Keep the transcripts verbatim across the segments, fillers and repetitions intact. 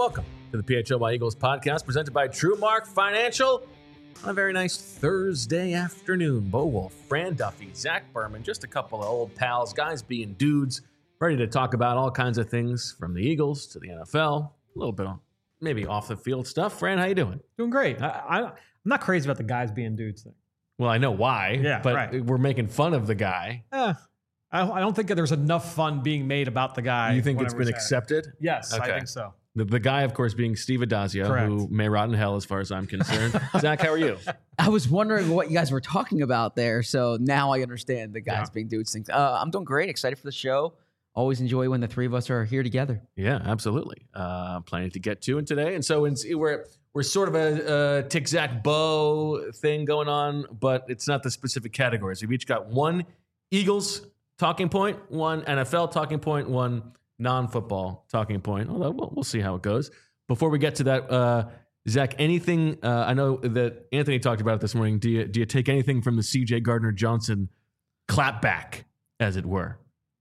welcome to the P H L Y Eagles podcast presented by TrueMark Financial on a very nice Thursday afternoon. Bo Wolf, Fran Duffy, Zach Berman, just a couple of old pals, guys being dudes, ready to talk about all kinds of things from the Eagles to the N F L, a little bit of maybe off the field stuff. Fran, how you doing? Doing great. I, I, I'm not crazy about the guys being dudes thing. Well, I know why, yeah, but right. we're making fun of the guy. Eh, I, I don't think that there's enough fun being made about the guy. You think it's been accepted? Yes, Okay. I think so. The, the guy, of course, being Steve Adazio, Correct. who may rot in hell as far as I'm concerned. Zach, how are you? I was wondering what you guys were talking about there, so now I understand the guys Yeah. being dudes things. Uh, I'm doing great, excited for the show. Always enjoy when the three of us are here together. Yeah, absolutely. Uh, plenty to get to in today. And so in, we're we're sort of a, a Tick Zach Bo thing going on, but it's not the specific categories. We've each got one Eagles talking point, one N F L talking point, one non-football talking point, although we'll, we'll see how it goes. Before we get to that, uh, Zach, anything, uh, I know that Anthony talked about it this morning. Do you, do you take anything from the C J Gardner-Johnson clapback, as it were?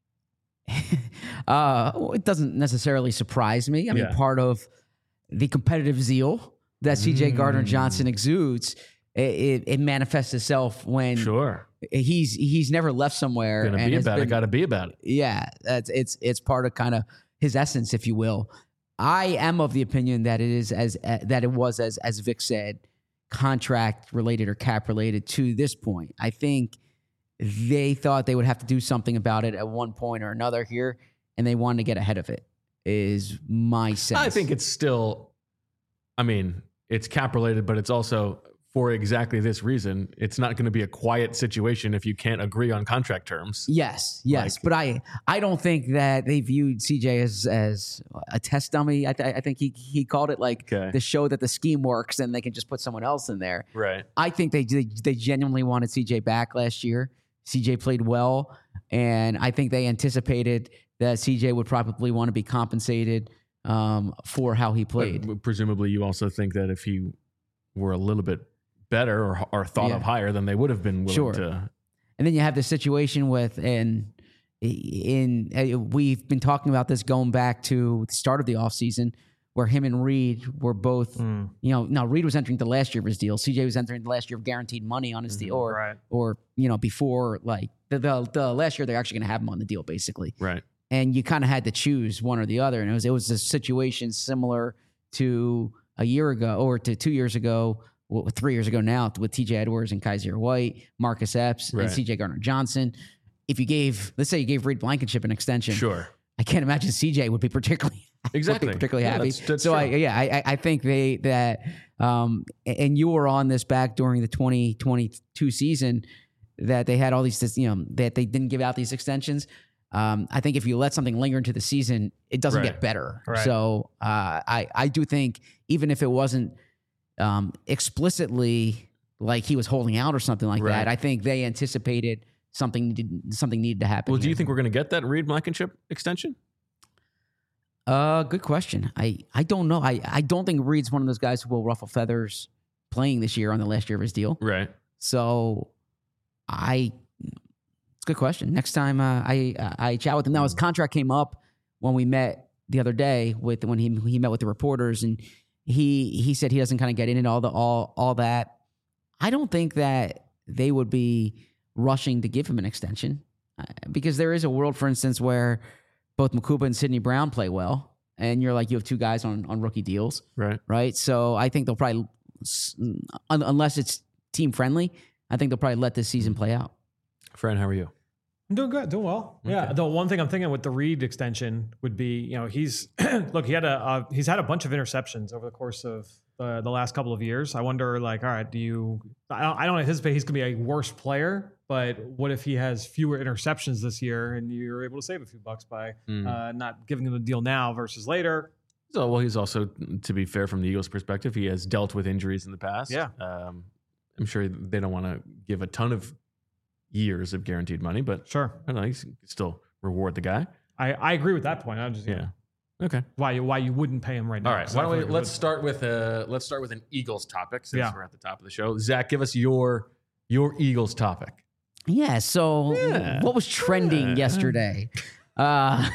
uh, it doesn't necessarily surprise me. I mean, Yeah. part of the competitive zeal that C J Mm. Gardner-Johnson exudes, it, it, it manifests itself when Sure. he's he's never left somewhere. Gonna and be has about it, been- gotta be about it. Yeah, that's it's it's part of kind of his essence, if you will. I am of the opinion that it is as uh, that it was as as Vic said, contract related or cap related to this point. I think they thought they would have to do something about it at one point or another here, and they wanted to get ahead of it. Is my sense. I think it's still, I mean, it's cap related, but it's also for exactly this reason. It's not going to be a quiet situation if you can't agree on contract terms. Yes, yes, Like- but I I don't think that they viewed C J as as a test dummy. I, th- I think he he called it like Okay. to show that the scheme works and they can just put someone else in there. Right. I think they they, they genuinely wanted C J back last year. C J played well, and I think they anticipated that C J would probably want to be compensated um, for how he played. But presumably, you also think that if he were a little bit better or, or thought Yeah. of higher, then they would have been willing Sure. to. And then you have the situation with and in, in we've been talking about this going back to the start of the offseason where him and Reed were both, Mm, you know, now Reed was entering the last year of his deal. C J was entering the last year of guaranteed money on his deal, or right. or you know before like the the, the last year they're actually going to have him on the deal basically. Right. And you kind of had to choose one or the other, and it was it was a situation similar to a year ago or to two years ago. Well, three years ago now with T J Edwards and Kaiser White, Marcus Epps, Right. and C J Gardner-Johnson. If you gave, let's say you gave Reed Blankenship an extension, Sure. I can't imagine C J would be particularly Exactly. would be particularly Yeah, happy. that's- that's so I, true. yeah, I, I think they that, um, and you were on this back during the twenty twenty-two season that they had all these, you know, that they didn't give out these extensions. Um, I think if you let something linger into the season, it doesn't Right. get better. Right. So uh, I I do think even if it wasn't um, explicitly like he was holding out or something like Right. that, I think they anticipated something needed, something needed to happen. Well, do you here. think we're going to get that Reed Blankenship extension? Uh, good question. I, I don't know. I, I don't think Reed's one of those guys who will ruffle feathers playing this year on the last year of his deal. Right. So I, it's a good question. Next time uh, I I chat with him. Now his contract came up when we met the other day with when he he met with the reporters, and he he said he doesn't kind of get into all the all all that. I don't think that they would be rushing to give him an extension uh, because there is a world, for instance, where both Makuba and Sidney Brown play well, and you're like you have two guys on on rookie deals, Right. right? So I think they'll probably, un- unless it's team friendly, I think they'll probably let this season play out. Fran, how are you? I'm doing good, doing well. Yeah. Okay. The one thing I'm thinking with the Reed extension would be, you know, he's look, he had a uh, he's had a bunch of interceptions over the course of uh, the last couple of years. I wonder, like, all right, do you? I don't, I don't anticipate he's going to be a worse player, but what if he has fewer interceptions this year and you're able to save a few bucks by Mm. uh, not giving him the deal now versus later? So, well, he's also, to be fair, from the Eagles' perspective, he has dealt with injuries in the past. Yeah. Um, I'm sure they don't want to give a ton of years of guaranteed money, but Sure, I don't know. You can still reward the guy. I, I agree with that point. I'm just Yeah. Okay. why you why you wouldn't pay him right now. All right. 'cause Why I don't feel we like it let's would. start with uh let's start with an Eagles topic since Yeah. we're at the top of the show. Zach, give us your your Eagles topic. Yeah. So Yeah. what was trending Yeah. yesterday? Uh,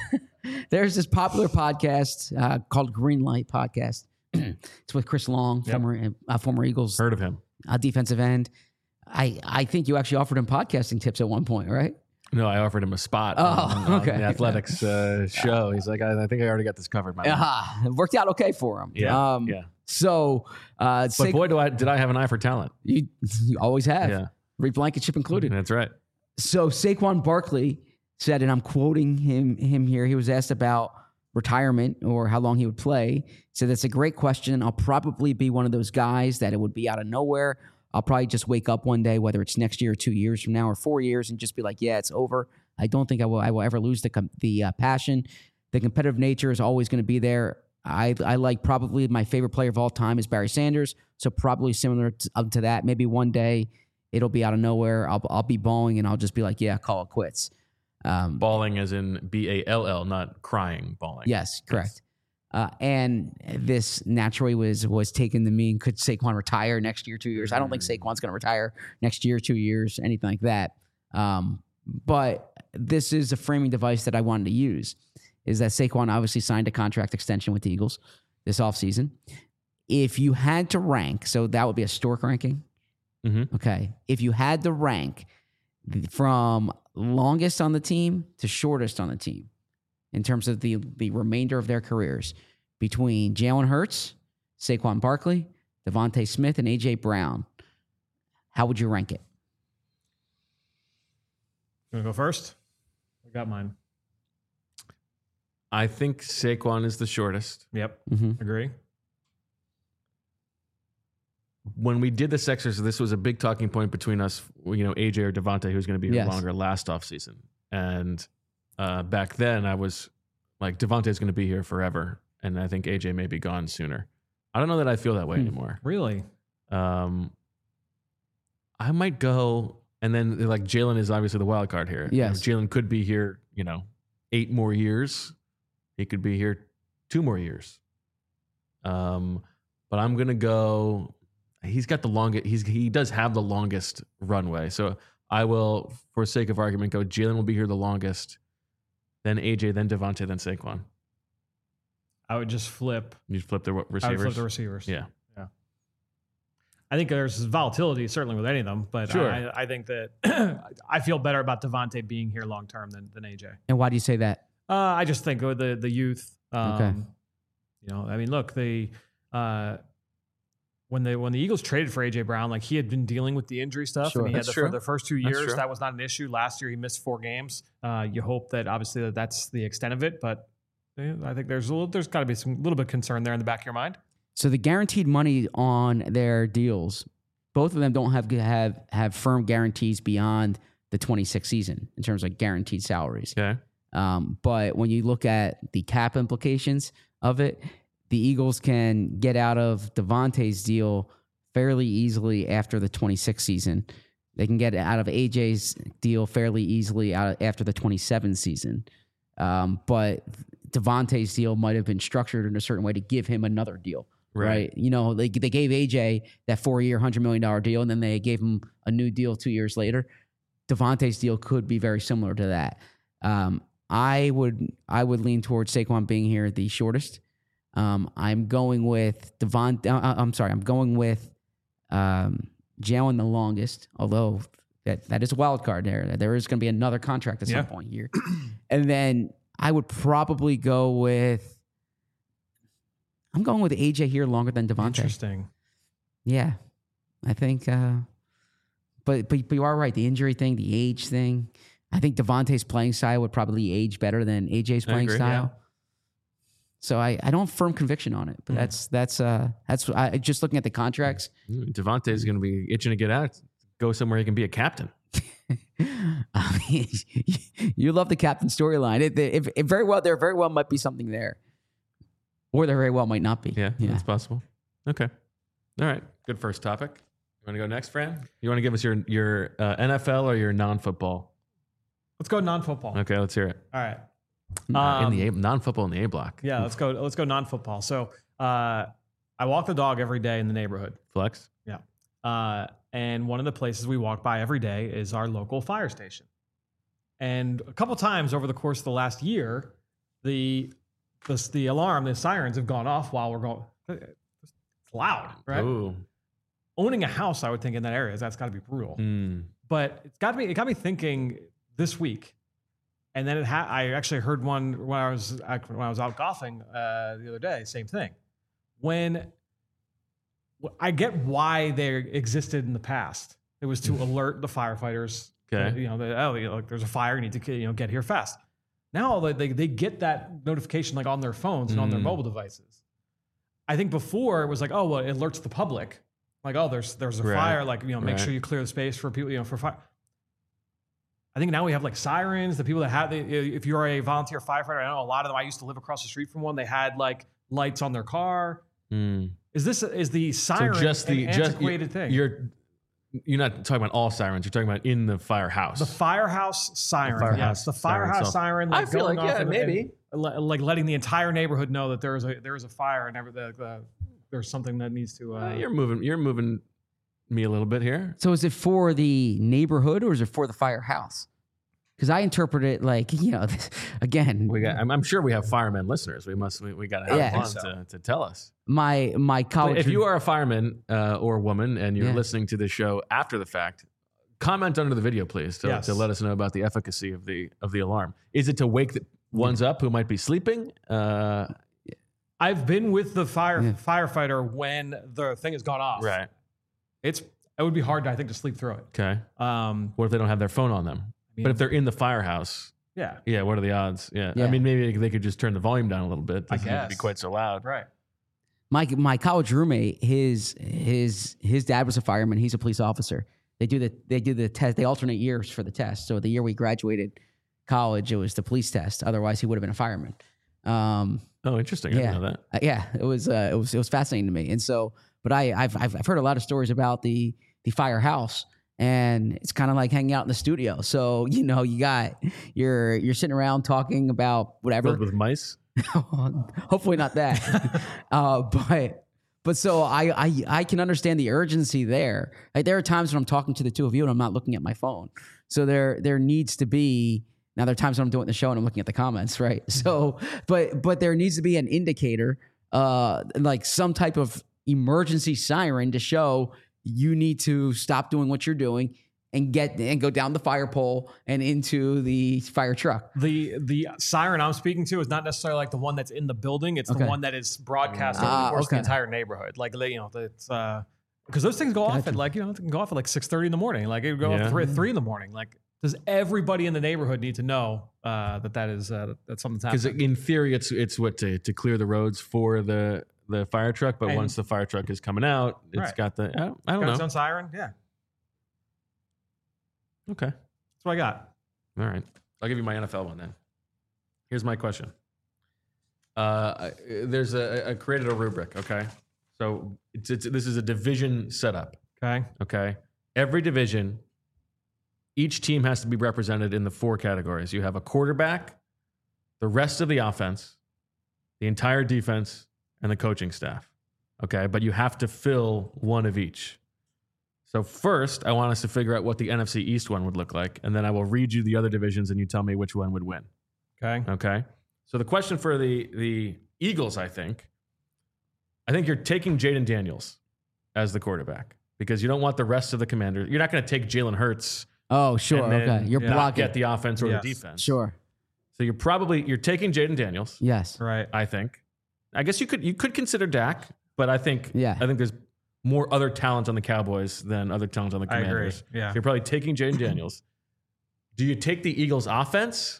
There's this popular podcast uh, called Greenlight Podcast. It's with Chris Long, Yep. former uh, former Eagles Heard of him? uh, defensive end. I I think you actually offered him podcasting tips at one point, right? No, I offered him a spot Oh, on, on okay. the athletics uh, show. He's like, I, I think I already got this covered. My man. Ah, it worked out okay for him. Yeah, Um, yeah. So, uh, But Sa- boy, do I did I have an eye for talent. you, you always have. Yeah, Reed Blankenship included. that's right. So Saquon Barkley said, and I'm quoting him him here. He was asked about retirement or how long he would play. He said, that's a great question. I'll probably be one of those guys that it would be out of nowhere. I'll probably just wake up one day, whether it's next year or two years from now or four years, and just be like, yeah, it's over. I don't think I will I will ever lose the com- the uh, passion. The competitive nature is always going to be there. I I like probably my favorite player of all time is Barry Sanders. So probably similar to, uh, to that. Maybe one day it'll be out of nowhere. I'll I'll be balling and I'll just be like, yeah, call it quits. Um, Bawling as in B A L L, not crying. Bawling. yes, correct. Uh, and this naturally was was taken to mean, could Saquon retire next year, two years? I don't think Saquon's going to retire next year, two years, anything like that. Um, but this is a framing device that I wanted to use, is that Saquon obviously signed a contract extension with the Eagles this offseason. If you had to rank, so that would be a Stork ranking. Mm-hmm. Okay. If you had to rank from longest on the team to shortest on the team in terms of the, the remainder of their careers between Jalen Hurts, Saquon Barkley, Devontae Smith, and A J Brown, how would you rank it? You want to go first? I got mine. I think Saquon is the shortest. Yep. Mm-hmm. Agree. When we did this exercise, this was a big talking point between us, you know, A J or Devontae, who's going to be here Yes. longer last offseason. And uh, back then I was like, Devontae's going to be here forever. And I think A J may be gone sooner. I don't know that I feel that way Hmm. anymore. Really? Um, I might go, and then like Jalen is obviously the wild card here. Yes. You know, Jalen could be here, you know, eight more years. He could be here two more years. Um, but I'm gonna go. He's got the longest. He's he does have the longest runway. So I will, for sake of argument, go. Jalen will be here the longest. Then A J, then Devontae, then Saquon. I would just flip. You flip the I would receivers. flip the receivers. Yeah. I think there's volatility certainly with any of them, but Sure. I, I think that I feel better about Devontae being here long term than than A J. And why do you say that? Uh, I just think with the the youth. Um, Okay. You know, I mean, look, the uh, when the when the Eagles traded for A J Brown, like he had been dealing with the injury stuff, Sure. and he had That's the, true. for the first two That's years true. that was not an issue. Last year he missed four games. Uh, you hope that obviously that that's the extent of it, but eh, I think there's a little, there's got to be some little bit of concern there in the back of your mind. So the guaranteed money on their deals, both of them don't have have have firm guarantees beyond the twenty-six season in terms of guaranteed salaries. Okay. Um, but when you look at the cap implications of it, the Eagles can get out of Devontae's deal fairly easily after the twenty-six season. They can get out of A J's deal fairly easily out after the twenty-seven season. Um, but Devontae's deal might have been structured in a certain way to give him another deal. Right. Right. You know, they, they gave A J that four year, one hundred million dollars deal, and then they gave him a new deal two years later. Devontae's deal could be very similar to that. Um, I would I would lean towards Saquon being here the shortest. Um, I'm going with Devon. Uh, I'm sorry. I'm going with um, Jalen the longest, although that, that is a wild card there. There is going to be another contract at Yeah. some point here. And then I would probably go with I'm going with A J here longer than Devontae. Interesting. Yeah, I think. Uh, but, but but you are right. The injury thing, the age thing. I think Devontae's playing style would probably age better than A J's I playing agree, style. So I, I don't have firm conviction on it, but Mm. that's that's uh that's I, just looking at the contracts. Devontae is going to be itching to get out, go somewhere he can be a captain. I mean, you love the captain storyline. It, it, it very well there very well might be something there, or there very well might not be. Yeah, yeah. that's possible. Okay. All right. Good first topic. You want to go next, Fran? You want to give us your your uh, N F L or your non-football? Let's go non-football. Okay, let's hear it. All right. Uh, Um, in the A, non-football in the A block. Yeah, let's go. Let's go non-football. So uh, I walk the dog every day in the neighborhood. Flex. Yeah. Uh, and one of the places we walk by every day is our local fire station. And a couple times over the course of the last year, the the the alarm, the sirens have gone off while we're going. It's loud, right? Ooh. Owning a house, I would think in that area, that's got to be brutal. Mm. But it's got me. It got me thinking this week, and then it ha- I actually heard one when I was when I was out golfing uh, the other day. Same thing. When I get why they existed in the past, it was to alert the firefighters. Okay. that, you know, that, oh, you know, like there's a fire, you need to you know get here fast. Now they they, they get that notification like on their phones and on their Mm. mobile devices. I think before it was like, oh, well, it alerts the public. Like, oh, there's there's a Right. fire. Like, you know, make Right. sure you clear the space for people, you know, for fire. I think now we have like sirens. The people that have, if you're a volunteer firefighter, I know a lot of them. I used to live across the street from one. They had like lights on their car. Mm. Is this is the siren So just the an just antiquated thing? You're you're not talking about all sirens. You're talking about in the firehouse. The firehouse siren. The firehouse yes, the siren firehouse itself. siren. I Like feel going like, off yeah, and- maybe. and le- like letting the entire neighborhood know that there is a there is a fire and every, the, the, there's something that needs to. Uh, Uh, you're moving. You're moving me a little bit here. So is it for the neighborhood or is it for the firehouse? Because I interpret it like, you know, again, We got. I'm, I'm sure we have firemen listeners. We must. We, we got to have Yeah. one So. to, to tell us. my my But college. if you are a fireman uh, or woman and you're Yeah. listening to this show after the fact, comment under the video, please, to, Yes. to let us know about the efficacy of the of the alarm. Is it to wake the ones up who might be sleeping? Uh, I've been with the fire Yeah. firefighter when the thing has gone off. right. It's it would be hard, I think, to sleep through it. Okay. Um, What if they don't have their phone on them? mean- but if they're in the firehouse, yeah, yeah, what are the odds? Yeah. I Yeah. mean, maybe they could just turn the volume down a little bit. It I doesn't need to be guess. quite so loud. right. my my college roommate, his his his dad was a fireman. He's a police officer. They do the they do the test. They alternate years for the test. So the year we graduated college, it was the police test. Otherwise, he would have been a fireman. Um, Oh, interesting. I Yeah. didn't know that. uh, yeah, it was uh, it was it was fascinating to me. And so, but I I've I've, I've heard a lot of stories about the the firehouse, and it's kind of like hanging out in the studio. So you know, you got you're you're sitting around talking about whatever. Filled with mice. Hopefully not that. uh, but but so I, I I can understand the urgency there. Like there are times when I'm talking to the two of you and I'm not looking at my phone. So there there needs to be now there are times when I'm doing the show and I'm looking at the comments, right? So but but there needs to be an indicator, uh, like some type of emergency siren to show you need to stop doing what you're doing and get and go down the fire pole and into the fire truck. The the siren I'm speaking to is not necessarily like the one that's in the building. It's Okay. the one that is broadcast over Ah, the course okay. of the entire neighborhood. Like they, you know, it's uh, because those things go off Gotcha. at like you know, it can go off at like six thirty in the morning. Like it would go Yeah. off three, three in the morning. Like does everybody in the neighborhood need to know uh, that that is uh, that something's Because happening? in theory, it's it's what to, to clear the roads for the the fire truck. But And- once the fire truck is coming out, it's Right. got the I don't, I don't Got its know. own siren. Yeah, Okay, that's what I got. all right. I'll give you my N F L one then. Here's my question. Uh, I- there's a I created a rubric. Okay, so it's, it's this is a division setup. Okay. Okay, every division, each team has to be represented in the four categories. You have a quarterback, the rest of the offense, the entire defense, and the coaching staff. Okay, but you have to fill one of each. So first, I want us to figure out what the N F C East one would look like, and then I will read you the other divisions, and you tell me which one would win. Okay. Okay. So the question for the the Eagles, I think, I think you're taking Jaden Daniels as the quarterback because you don't want the rest of the Commanders. You're not going to take Jalen Hurts Oh, sure. and then Okay. You're yeah, not blocking. get the offense or Yes. the defense. Sure. So you're probably you're taking Jaden Daniels. Yes. Right. I think. I guess you could you could consider Dak, but I think Yeah. I think there's more other talent on the Cowboys than other talent on the I agree. Commanders. Yeah. So you're probably taking Jaden Daniels. Do you take the Eagles offense?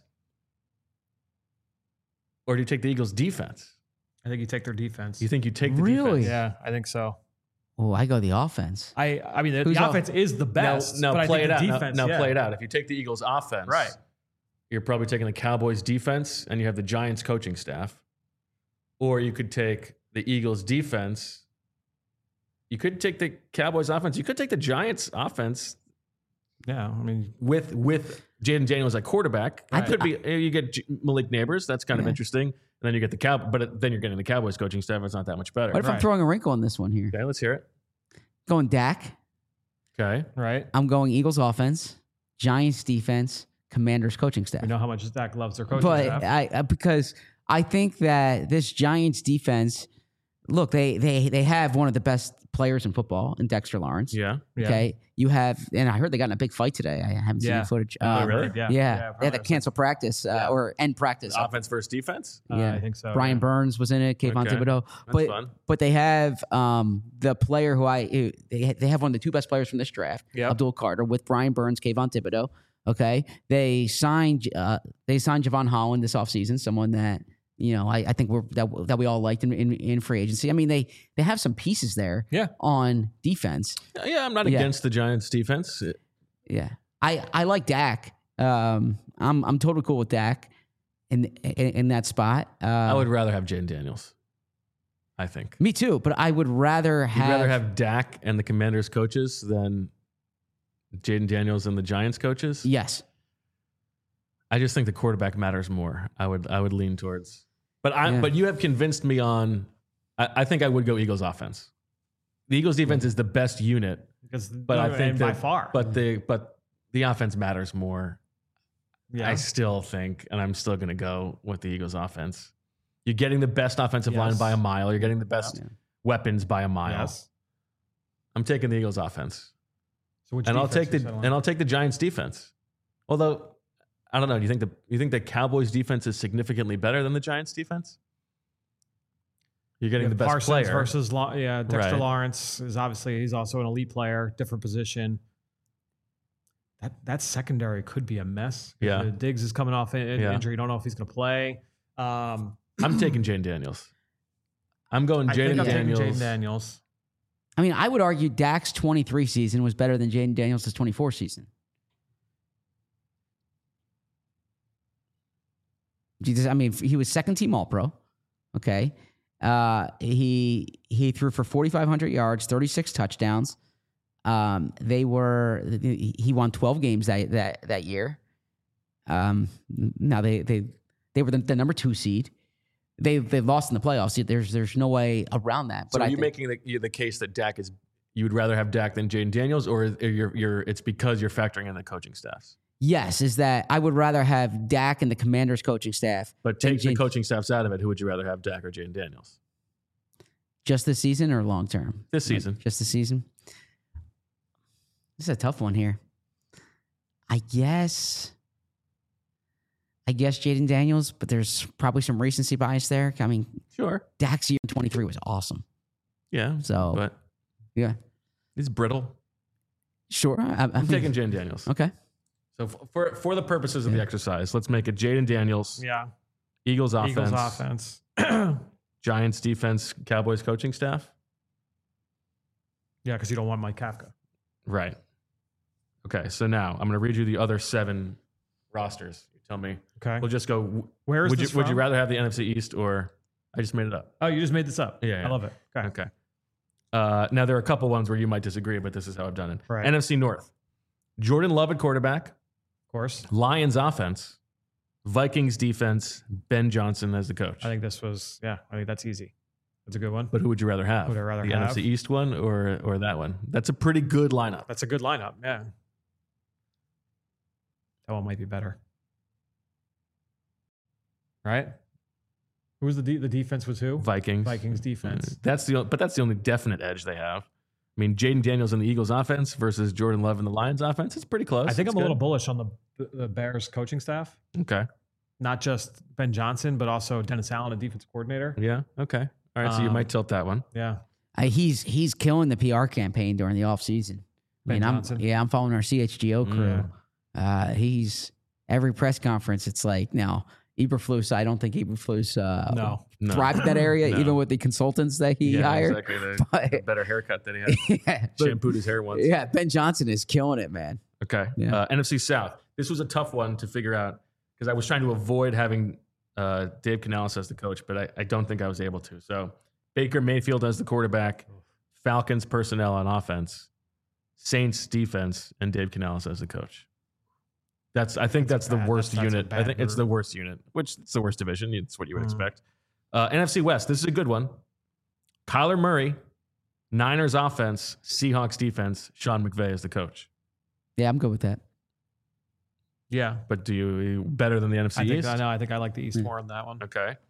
Or do you take the Eagles defense? I think you take their defense. You think you take the Really? defense? Yeah, I think so. Oh, I go the offense. I I mean the, Who's the off- offense is the best. Now, but now I play it think out. the Now- defense, now yeah. play it out. If you take the Eagles offense, Right. you're probably taking the Cowboys defense and you have the Giants coaching staff. Or you could take the Eagles defense. You could take the Cowboys offense. You could take the Giants offense Yeah, I mean with with Jaden Daniels at quarterback. Right. It could be you get J- Malik Neighbors. That's kind of Yeah. interesting. And then you get the Cow, but it- then you're getting the Cowboys coaching staff. It's not that much better. What if I'm Right. throwing a wrinkle on this one here? Okay, let's hear it. Going Dak. Okay. right. I'm going Eagles offense, Giants defense, Commanders coaching staff. We know how much Dak loves their coaching but staff. I, I because I think that this Giants defense, look, they they they have one of the best players in football in Dexter Lawrence. Yeah. Yeah. Okay. You have, and I heard they got in a big fight today. I haven't seen Yeah. the footage. Oh, Um, really? Yeah. Yeah. They had to probably. cancel practice uh, Yeah. or end practice. Offense versus defense. Uh, Yeah. I think so. Brian yeah. Burns was in it, Kayvon Okay. Thibodeau. That's But fun. but they have um, the player who I who- they they have one of the two best players from this draft, Yep. Abdul Carter, with Brian Burns, Kayvon Thibodeau. Okay, they signed uh, they signed Javon Holland this offseason, someone that you know I, I think we're that, that we all liked in, in in free agency. I mean they they have some pieces there Yeah. on defense. Yeah, I'm not Yeah. against the Giants defense. Yeah, I I like Dak. Um, I'm I'm totally cool with Dak in in, in that spot. Uh, I would rather have Jaden Daniels. I think. me too, but I would rather You'd have rather have Dak and the Commanders coaches than Jaden Daniels and the Giants coaches. yes. I just think the quarterback matters more. I would I would lean towards. But I Yeah. but you have convinced me on I, I think I would go Eagles offense. The Eagles defense is the best unit, Because, but I think and by that- far. But the but the offense matters more. yeah. I still think, and I'm still gonna go with the Eagles offense. You're getting the best offensive line Yes. by a mile. You're getting the best Yeah. weapons by a mile. Yes. I'm taking the Eagles offense. So which and I'll defense take you the settle on? and I'll take the Giants defense. Although I don't know, do you think the you think the Cowboys defense is significantly better than the Giants defense? You're getting Yeah, the best Parsons player versus Law- yeah, Dexter Right. Lawrence is obviously he's also an elite player, different position. That that secondary could be a mess. Yeah. Uh, Diggs is coming off an Yeah. injury. You don't know if he's going to play. Um, I'm taking Jaden Daniels. I'm going I think Jaden I'm taking Daniels. Jaden Daniels. I mean, I would argue Dak's twenty-three season was better than Jaden Daniels' twenty-four season. Jesus, I mean, he was second team All Pro. Okay, uh, he he threw for forty-five hundred yards, thirty-six touchdowns. Um, they were he won twelve games that that that year. Um, now they they they were the, the number two seed. They they lost in the playoffs. There's there's no way around that. So But are I you think, making the, you- the case that Dak is you would rather have Dak than Jaden Daniels, or you're, you're it's because you're factoring in the coaching staffs? yes, is that I would rather have Dak and the Commanders coaching staff But than take the Jaden- coaching staffs out of it. Who would you rather have, Dak or Jaden Daniels? just this season or long term. This season. Just the season. This is a tough one here. I guess. I guess Jaden Daniels, but there's probably some recency bias there. I mean, Sure. Dak's year in twenty-three was awesome. Yeah. So But yeah, he's brittle. sure. I, I I'm mean, taking Jaden Daniels. okay. So f- for for the purposes of the Yeah. exercise, let's make it Jaden Daniels, Yeah, Eagles offense, Eagles offense. Giants defense, Cowboys coaching staff. Yeah, because you don't want Mike Kafka. Right. Okay. So now I'm going to read you the other seven rosters. You tell me. Okay, We'll just go. where is Would you this would you from? rather have the N F C East or I just made it up? Oh, you just made this up. Yeah, yeah. I love it. Okay, Okay. Uh, now there are a couple ones where you might disagree, but this is how I've done it. Right. N F C North. Jordan Love at quarterback. of course. Lions offense. Vikings defense. Ben Johnson as the coach. I think this was yeah. I think that's easy. That's a good one. But who would you rather have? Who would I rather the have? N F C East one or or that one? That's a pretty good lineup. That's a good lineup. Yeah, that one might be better. Right? Who was the de- the defense was who? Vikings. Vikings defense. That's the but that's the only definite edge they have. I mean, Jaden Daniels in the Eagles offense versus Jordan Love in the Lions offense. It's pretty close. I think It's I'm a good. little bullish on the the Bears coaching staff. Okay. Not just Ben Johnson, but also Dennis Allen, a defensive coordinator. Yeah. Okay. All right. So you Um, might tilt that one. Yeah. I, he's he's killing the P R campaign during the offseason. I Ben mean, I'm Johnson. yeah, I'm following our C H G O crew. Uh, he's every press conference. It's like now Eberflus. I don't think Eberflus uh, No. No. thrived in that area, No. even with the consultants that he yeah, hired. exactly. The, But- the better haircut that he had. yeah, Shampooed his hair once. yeah, Ben Johnson is killing it, man. Okay. Yeah. Uh, N F C South. This was a tough one to figure out because I was trying to avoid having uh, Dave Canales as the coach, but I, I don't think I was able to. So Baker Mayfield as the quarterback, Falcons personnel on offense, Saints defense, and Dave Canales as the coach. That's I think that's, That's a the bad- worst that's- that's a unit. I bad think it's group. the worst unit, which it's the worst division. It's what you would Mm. expect. Uh, N F C West. This is a good one. Kyler Murray, Niners offense, Seahawks defense, Sean McVay as the coach. Yeah, I'm good with that. Yeah. But do you better than the N F C I think East? I know. I think I like the East Yeah. more on that one. Okay.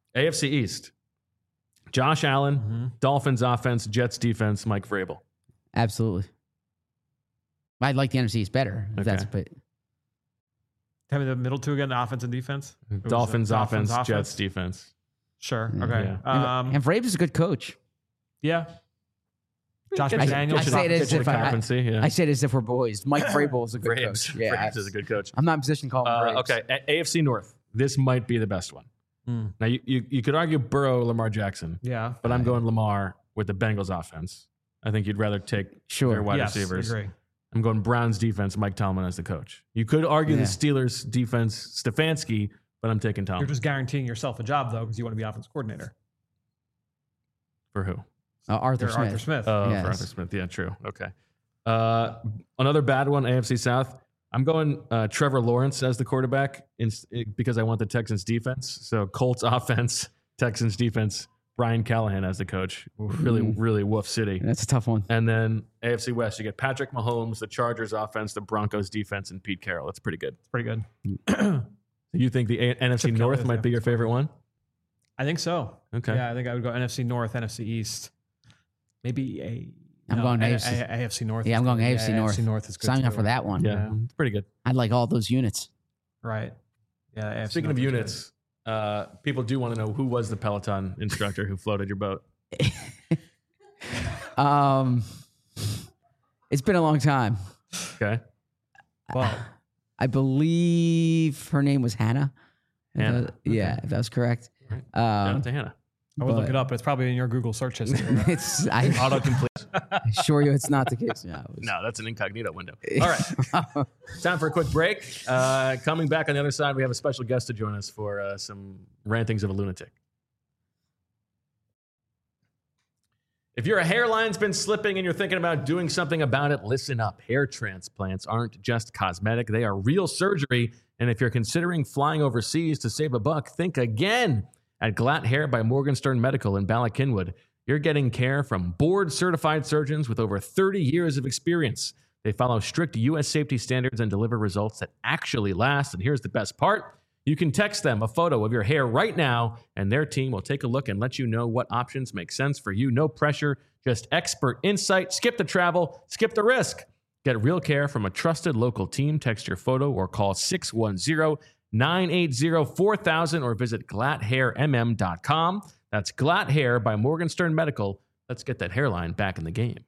A F C East. Josh Allen, Mm-hmm. Dolphins offense, Jets defense, Mike Vrabel. Absolutely. I'd like the N F C East better. If Okay. that's but Tell me the middle two again, the offense and defense. It was, Dolphins, uh, offense, Dolphins Jets defense. Sure. Yeah. Okay. Yeah. Um, and Vrabel's is a good coach. yeah. Josh Gets you- McDaniels. I gets you say it the- as gets you if the I- I- competency, yeah. I say it as if we're boys. Mike Vrabel is a good Braves. coach. Yeah, Braves is a good coach. I'm not in position to call him Uh, Braves. okay, A- AFC North. This might be the best one. Mm. Now, you, you, you could argue Burrow, Lamar Jackson, Yeah. but I'm going Lamar with the Bengals offense. I think you'd rather take Sure. their wide yes, receivers. Agree. I'm going Browns defense, Mike Tomlin as the coach. You could argue Yeah. the Steelers defense, Stefanski, but I'm taking You're Tomlin. just guaranteeing yourself a job though, because you want to be offense coordinator. For who? Uh, Arthur You're Smith. Arthur Smith. Oh, Yes. for Arthur Smith. Yeah, true. Okay. Uh, another bad one, A F C South. I'm going uh, Trevor Lawrence as the quarterback in, because I want the Texans defense. So Colts offense, Texans defense, Brian Callahan as the coach. Really, Mm. really woof city. That's a tough one. And then A F C West, you get Patrick Mahomes, the Chargers offense, the Broncos defense, and Pete Carroll. That's pretty good. It's pretty good. You think the A- N F C Chip Kelly North is might the be your favorite one? I think so. Okay. Yeah, I think I would go N F C North, N F C East. Maybe a. I'm going A- A F C. A- AFC North. Yeah, is I'm going good. A F C Yeah, North. A F C North is good. Sign up too. for that one. Yeah, Yeah. it's pretty good. I'd like all those units. Right. Yeah. A F C Speaking North of is good. units, uh, people do want to know who was the Peloton instructor who floated your boat. Um, it's been a long time. Okay. Well, I believe her name was Hannah. If Hannah, that- yeah, if that was correct. Right. Shout Um, out to Hannah. I would look but- it up, but it's probably in your Google search history. it's I Autocomplete. assure you it's not the case. No, it was- No, that's an incognito window. All right. Time for a quick break. Uh, coming back on the other side, we have a special guest to join us for uh, some rantings of a lunatic. If your hairline's been slipping and you're thinking about doing something about it, listen up. Hair transplants aren't just cosmetic, they are real surgery. And if you're considering flying overseas to save a buck, think again. At Glatt Hair by Morgenstern Medical in Bala Cynwyd, you're getting care from board-certified surgeons with over thirty years of experience. They follow strict U S safety standards and deliver results that actually last. And here's the best part. You can text them a photo of your hair right now, and their team will take a look and let you know what options make sense for you. No pressure, just expert insight. Skip the travel, skip the risk. Get real care from a trusted local team. Text your photo or call six one zero, nine eight zero, four thousand or visit glatt hair m m dot com. That's Glatt Hair by Morgenstern Medical. Let's get that hairline back in the game.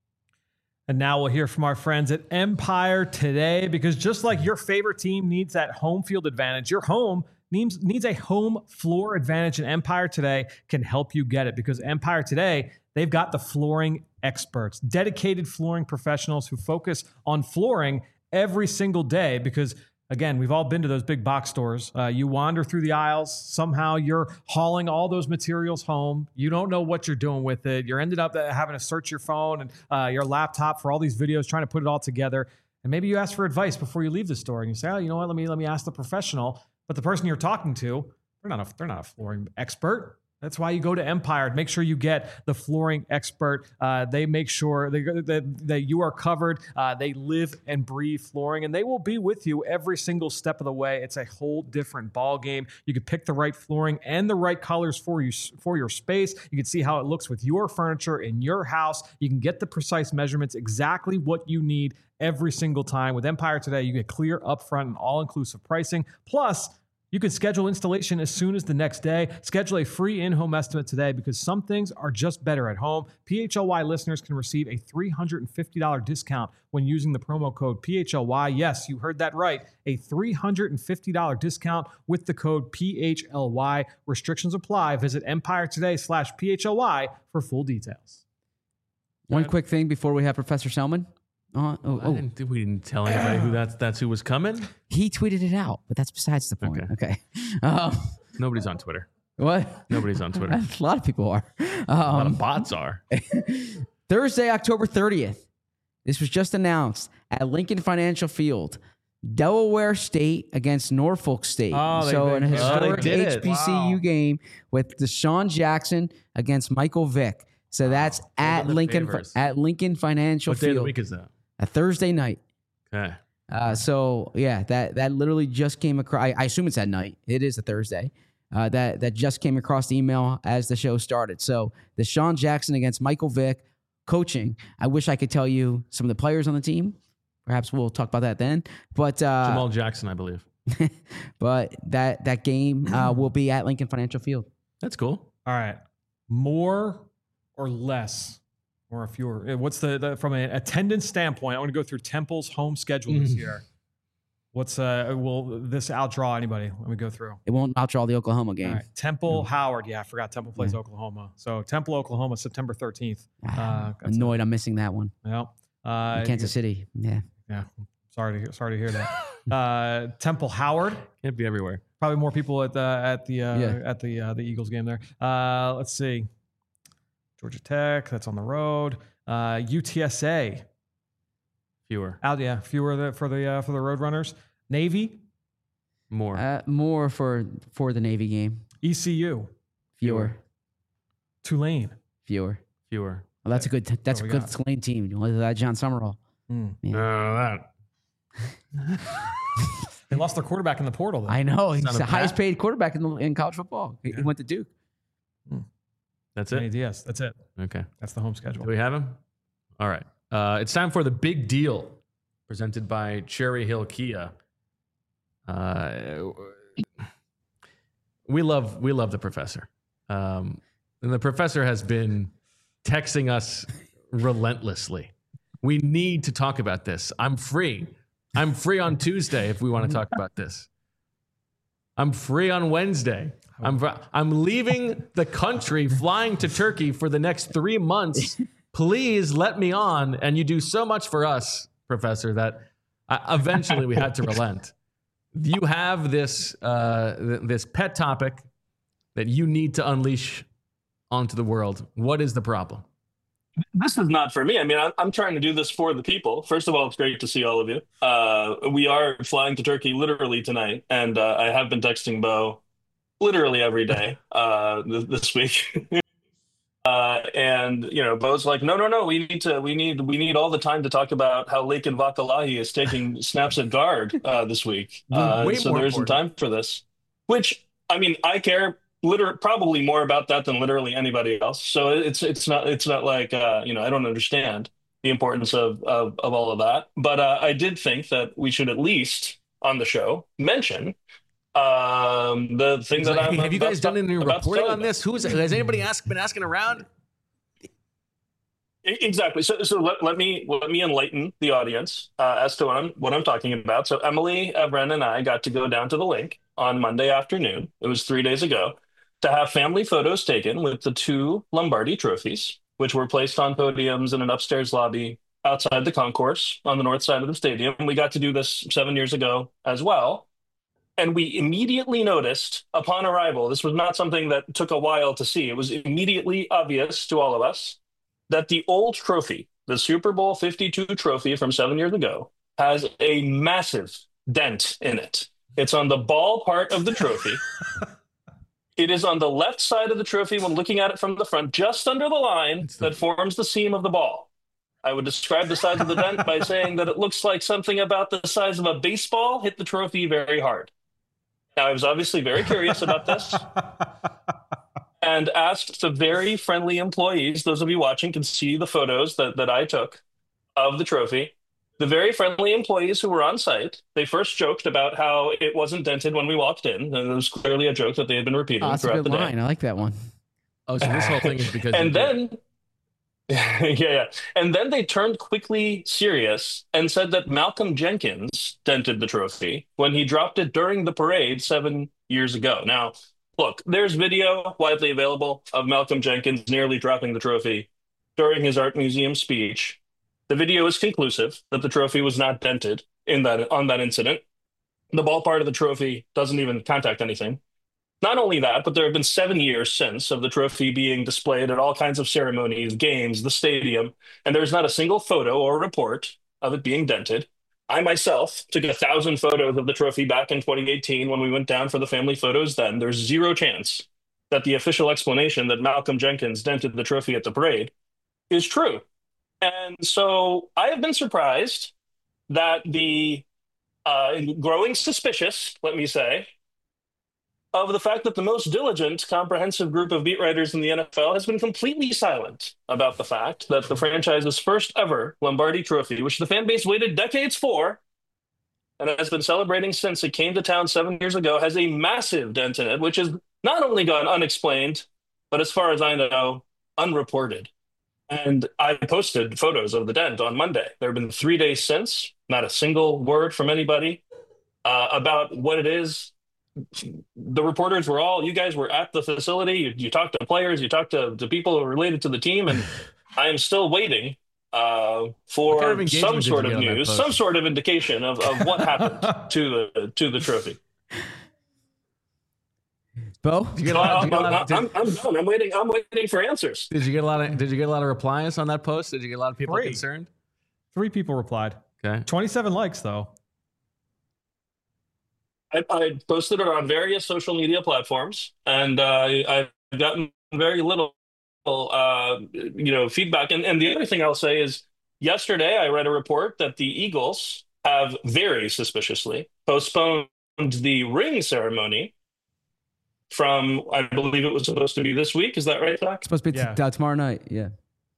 And now we'll hear from our friends at Empire Today, because just like your favorite team needs that home field advantage, your home needs, needs a home floor advantage, and Empire Today can help you get it, because Empire Today, they've got the flooring experts, dedicated flooring professionals who focus on flooring every single day. Because again, we've all been to those big box stores. Uh, you wander through the aisles. Somehow you're hauling all those materials home. You don't know what you're doing with it. You're ended up having to search your phone and uh, your laptop for all these videos, trying to put it all together. And maybe you ask for advice before you leave the store, and you say, "Oh, you know what? Let me let me ask the professional." But the person you're talking to, they're not a they're not a flooring expert. That's why you go to Empire. Make sure you get the flooring expert. Uh, they make sure that, that, that you are covered. Uh, they live and breathe flooring, and they will be with you every single step of the way. It's a whole different ball game. You can pick the right flooring and the right colors for you for your space. You can see how it looks with your furniture in your house. You can get the precise measurements, exactly what you need every single time. With Empire Today, you get clear, upfront, and all-inclusive pricing. Plus, you can schedule installation as soon as the next day. Schedule a free in-home estimate today, because some things are just better at home. P H L Y listeners can receive a three hundred fifty dollars discount when using the promo code P H L Y. Yes, you heard that right. A three hundred fifty dollars discount with the code P H L Y. Restrictions apply. Visit Empire Today slash P H L Y for full details. One quick thing before we have Professor Selman. Uh, oh, I oh, didn't, we didn't tell anybody who that's that's who was coming. he tweeted it out, but that's besides the point. Okay. Okay. Um, Nobody's on Twitter. what? Nobody's on Twitter. A lot of people are. A lot Um, of bots are. Thursday, October thirtieth. This was just announced at Lincoln Financial Field. Delaware State against Norfolk State. Oh, they- so they- an oh, they historic did it. H B C U Wow. game with Deshaun Jackson against Michael Vick. So that's at the Lincoln favors. at Lincoln Financial What day of the Field. week is that? A Thursday night. Okay. Uh, so yeah, that that literally just came across. I, I assume it's at night. It is a Thursday. uh, that that just came across the email as the show started. So Deshaun Jackson against Michael Vick, coaching. I wish I could tell you some of the players on the team. Perhaps we'll talk about that then. But uh, Jamal Jackson, I believe. but that that game uh, will be at Lincoln Financial Field. That's cool. All right. More or less, or fewer. What's the, the from an attendance standpoint? I want to go through Temple's home schedule this year. What's uh? Will this outdraw anybody? Let me go through. It won't outdraw the Oklahoma game. All right. Temple, Howard. Yeah, I forgot Temple plays yeah. Oklahoma. So Temple, Oklahoma, September thirteenth. Uh, Annoyed, a, I'm missing that one. Yeah. Uh, Kansas City. Yeah. Yeah. Sorry to hear, sorry to hear that. uh, Temple, Howard. Can't be everywhere. Probably more people at the at the uh, yeah. at the uh, the Eagles game there. Uh, let's see. Georgia Tech. That's on the road. Uh, U T S A. Fewer. Out. Yeah. Fewer the, for the uh, for the Roadrunners. Navy. More. Uh, more for for the Navy game. E C U. Fewer. Tulane. Fewer. Fewer. Well, that's a good. That's a good got? Tulane team. That John Summerall. Mm. Yeah. Uh, that. They lost their quarterback in the portal, though. I know. He's the highest paid quarterback in, the, in college football. He, yeah. he went to Duke. Hmm. That's it? Yes, that's it. Okay. That's the home schedule. Do we have him? All right. Uh, it's time for the big deal presented by Cherry Hill Kia. Uh, we love we love the professor. Um, and the professor has been texting us relentlessly. We need to talk about this. I'm free. I'm free on Tuesday if we want to talk about this. I'm free on Wednesday. I'm I'm leaving the country, flying to Turkey for the next three months. Please let me on. And you do so much for us, Professor, that I, eventually we had to relent. You have this uh, th- this pet topic that you need to unleash onto the world. What is the problem? This is not for me. I mean, I'm, I'm trying to do this for the people. First of all, it's great to see all of you. Uh, we are flying to Turkey literally tonight, and uh, I have been texting Bo literally every day uh, th- this week. uh, and you know, Bo's like, no, no, no. We need to. We need. We need all the time to talk about how Lakin Vakalahi is taking snaps at guard uh, this week. Uh, Way so more there isn't important. time for this. Which I mean, I care. Literally, probably more about that than literally anybody else. So it's it's not it's not like uh, you know I don't understand the importance of of, of all of that. But uh, I did think that we should at least on the show mention um, the thing that like, I'm. Hey, have you guys done any reporting on about. this? Who's has anybody asked been asking around? Exactly. So, so let, let me let me enlighten the audience uh, as to what I'm what I'm talking about. So Emily, Evren, and I got to go down to the link on Monday afternoon. It was three days ago to have family photos taken with the two Lombardi trophies, which were placed on podiums in an upstairs lobby outside the concourse on the north side of the stadium. We got to do this seven years ago as well. And we immediately noticed upon arrival, this was not something that took a while to see. It was immediately obvious to all of us that the old trophy, the Super Bowl fifty-two trophy from seven years ago, has a massive dent in it. It's on the ball part of the trophy. It is on the left side of the trophy when looking at it from the front, just under the line the... that forms the seam of the ball. I would describe the size of the dent by saying that it looks like something about the size of a baseball hit the trophy very hard. Now, I was obviously very curious about this and asked the very friendly employees, those of you watching can see the photos that, that I took of the trophy. The very friendly employees who were on site, they first joked about how it wasn't dented when we walked in. And it was clearly a joke that they had been repeating oh, that's throughout a good the line. day. I like that one. Oh, so this whole thing is because and then, yeah, yeah. And then they turned quickly serious and said that Malcolm Jenkins dented the trophy when he dropped it during the parade seven years ago. Now, look, there's video widely available of Malcolm Jenkins nearly dropping the trophy during his art museum speech. The video is conclusive that the trophy was not dented in that on that incident. The ball part of the trophy doesn't even contact anything. Not only that, but there have been seven years since of the trophy being displayed at all kinds of ceremonies, games, the stadium, and there's not a single photo or report of it being dented. I myself took a thousand photos of the trophy back in twenty eighteen when we went down for the family photos then. There's zero chance that the official explanation that Malcolm Jenkins dented the trophy at the parade is true. And so I have been surprised that the uh, growing suspicious, let me say, of the fact that the most diligent, comprehensive group of beat writers in the N F L has been completely silent about the fact that the franchise's first ever Lombardi Trophy, which the fan base waited decades for, and has been celebrating since it came to town seven years ago, has a massive dent in it, which has not only gone unexplained, but as far as I know, unreported. And I posted photos of the dent on Monday. There have been three days since, not a single word from anybody uh, about what it is. The reporters were all, you guys were at the facility. You, you talked to players, you talked to, to people related to the team, and I am still waiting uh, for kind of some sort of engagement did you get on that news, post? some sort of indication of, of what happened to the to the trophy. Bo? Did you get a So lot, I, did you get a lot I'm, of- did- I'm, I'm done. I'm waiting. I'm waiting for answers. did you get a lot of did you get a lot of replies on that post? Did you get a lot of people Three. concerned? Three people replied. Okay. twenty-seven likes though. I, I posted it on various social media platforms, and uh, I, I've gotten very little, uh, you know, feedback. And, and the other thing I'll say is, yesterday I read a report that the Eagles have very suspiciously postponed the ring ceremony from, I believe it was supposed to be this week. Is that right, Zach? It's supposed to be Yeah. t- uh, tomorrow night. Yeah.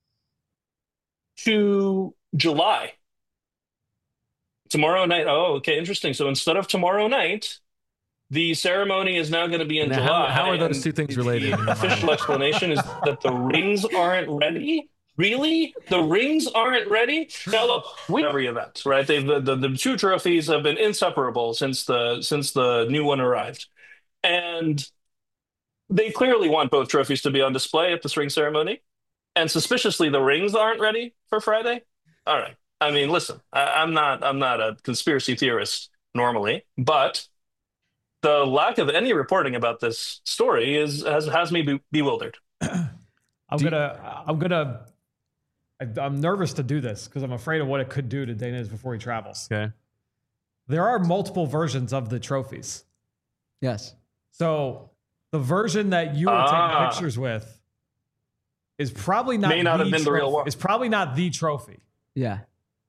To July. Tomorrow night. Oh, okay, interesting. So instead of tomorrow night, the ceremony is now going to be in Now, how- July. how are those and two things the related in your mind? official explanation is that the rings aren't ready. Really? The rings aren't ready? Now look, we every event, right? They've the, the, the two trophies have been inseparable since the since the new one arrived. And they clearly want both trophies to be on display at this ring ceremony. And suspiciously, the rings aren't ready for Friday. All right. I mean, listen, I, I'm not I'm not a conspiracy theorist normally, but the lack of any reporting about this story is has has me be, bewildered. I'm Do you- gonna. I'm gonna. I- I'm nervous to do this because I'm afraid of what it could do to Daniz before he travels. Okay. There are multiple versions of the trophies. Yes. So the version that you were Ah. taking pictures with is probably not May not the have been the real trophy. one. It's probably not the trophy. Yeah.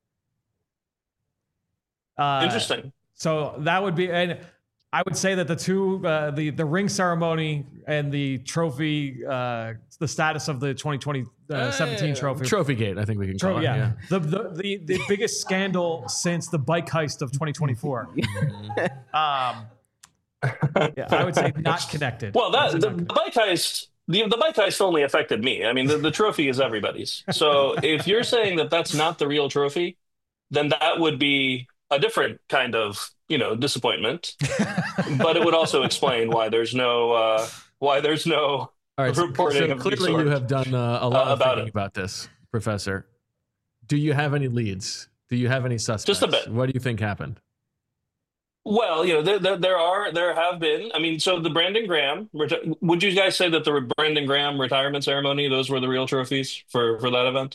Uh, Interesting. So that would be, and I would say that the two, uh, the the ring ceremony and the trophy, uh, the status of the twenty twenty seventeen trophy. Trophy gate, I think we can call Tro- it. yeah, The, the the the biggest scandal since the bike heist of twenty twenty-four. um, yeah, I would say not connected. Well, that That's the, not the bike heist, the, the bike heist only affected me. I mean, the, the trophy is everybody's. So if you're saying that that's not the real trophy, then that would be a different kind of, you know, disappointment. But it would also explain why there's no uh, why there's no All right. So, reporting so of any clearly sort. you have done uh, a lot Uh, of about thinking it. about this, Professor. Do you have any leads? Do you have any suspects? Just a bit. What do you think happened? Well, you know, there, there, there are, there have been. I mean, so the Brandon Graham, reti- would you guys say that the Brandon Graham retirement ceremony, those were the real trophies for, for that event?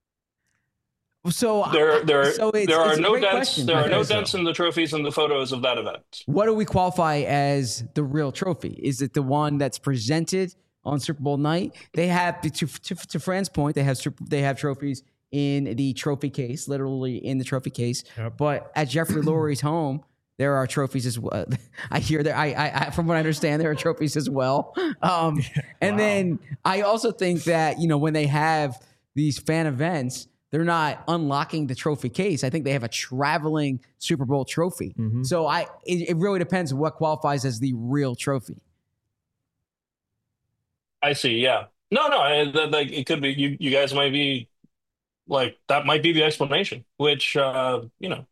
So There, there, so it's, there are it's a no great dents. question. There are I no think so. dents in the trophies and the photos of that event. What do we qualify as the real trophy? Is it the one that's presented on Super Bowl night? They have to to, to, to Fran's point. They have super, they have trophies in the trophy case, literally in the trophy case. Yep. But at Jeffrey Lurie's home, there are trophies as well. I hear there. I, I, I from what I understand, there are trophies as well. Um, and then I also think that you know when they have these fan events, they're not unlocking the trophy case. I think they have a traveling Super Bowl trophy. So I, it, it really depends what qualifies as the real trophy. I see. Yeah. No, no. I, that, like it could be. You, you guys might be like that. Might be the explanation. Which, uh, you know,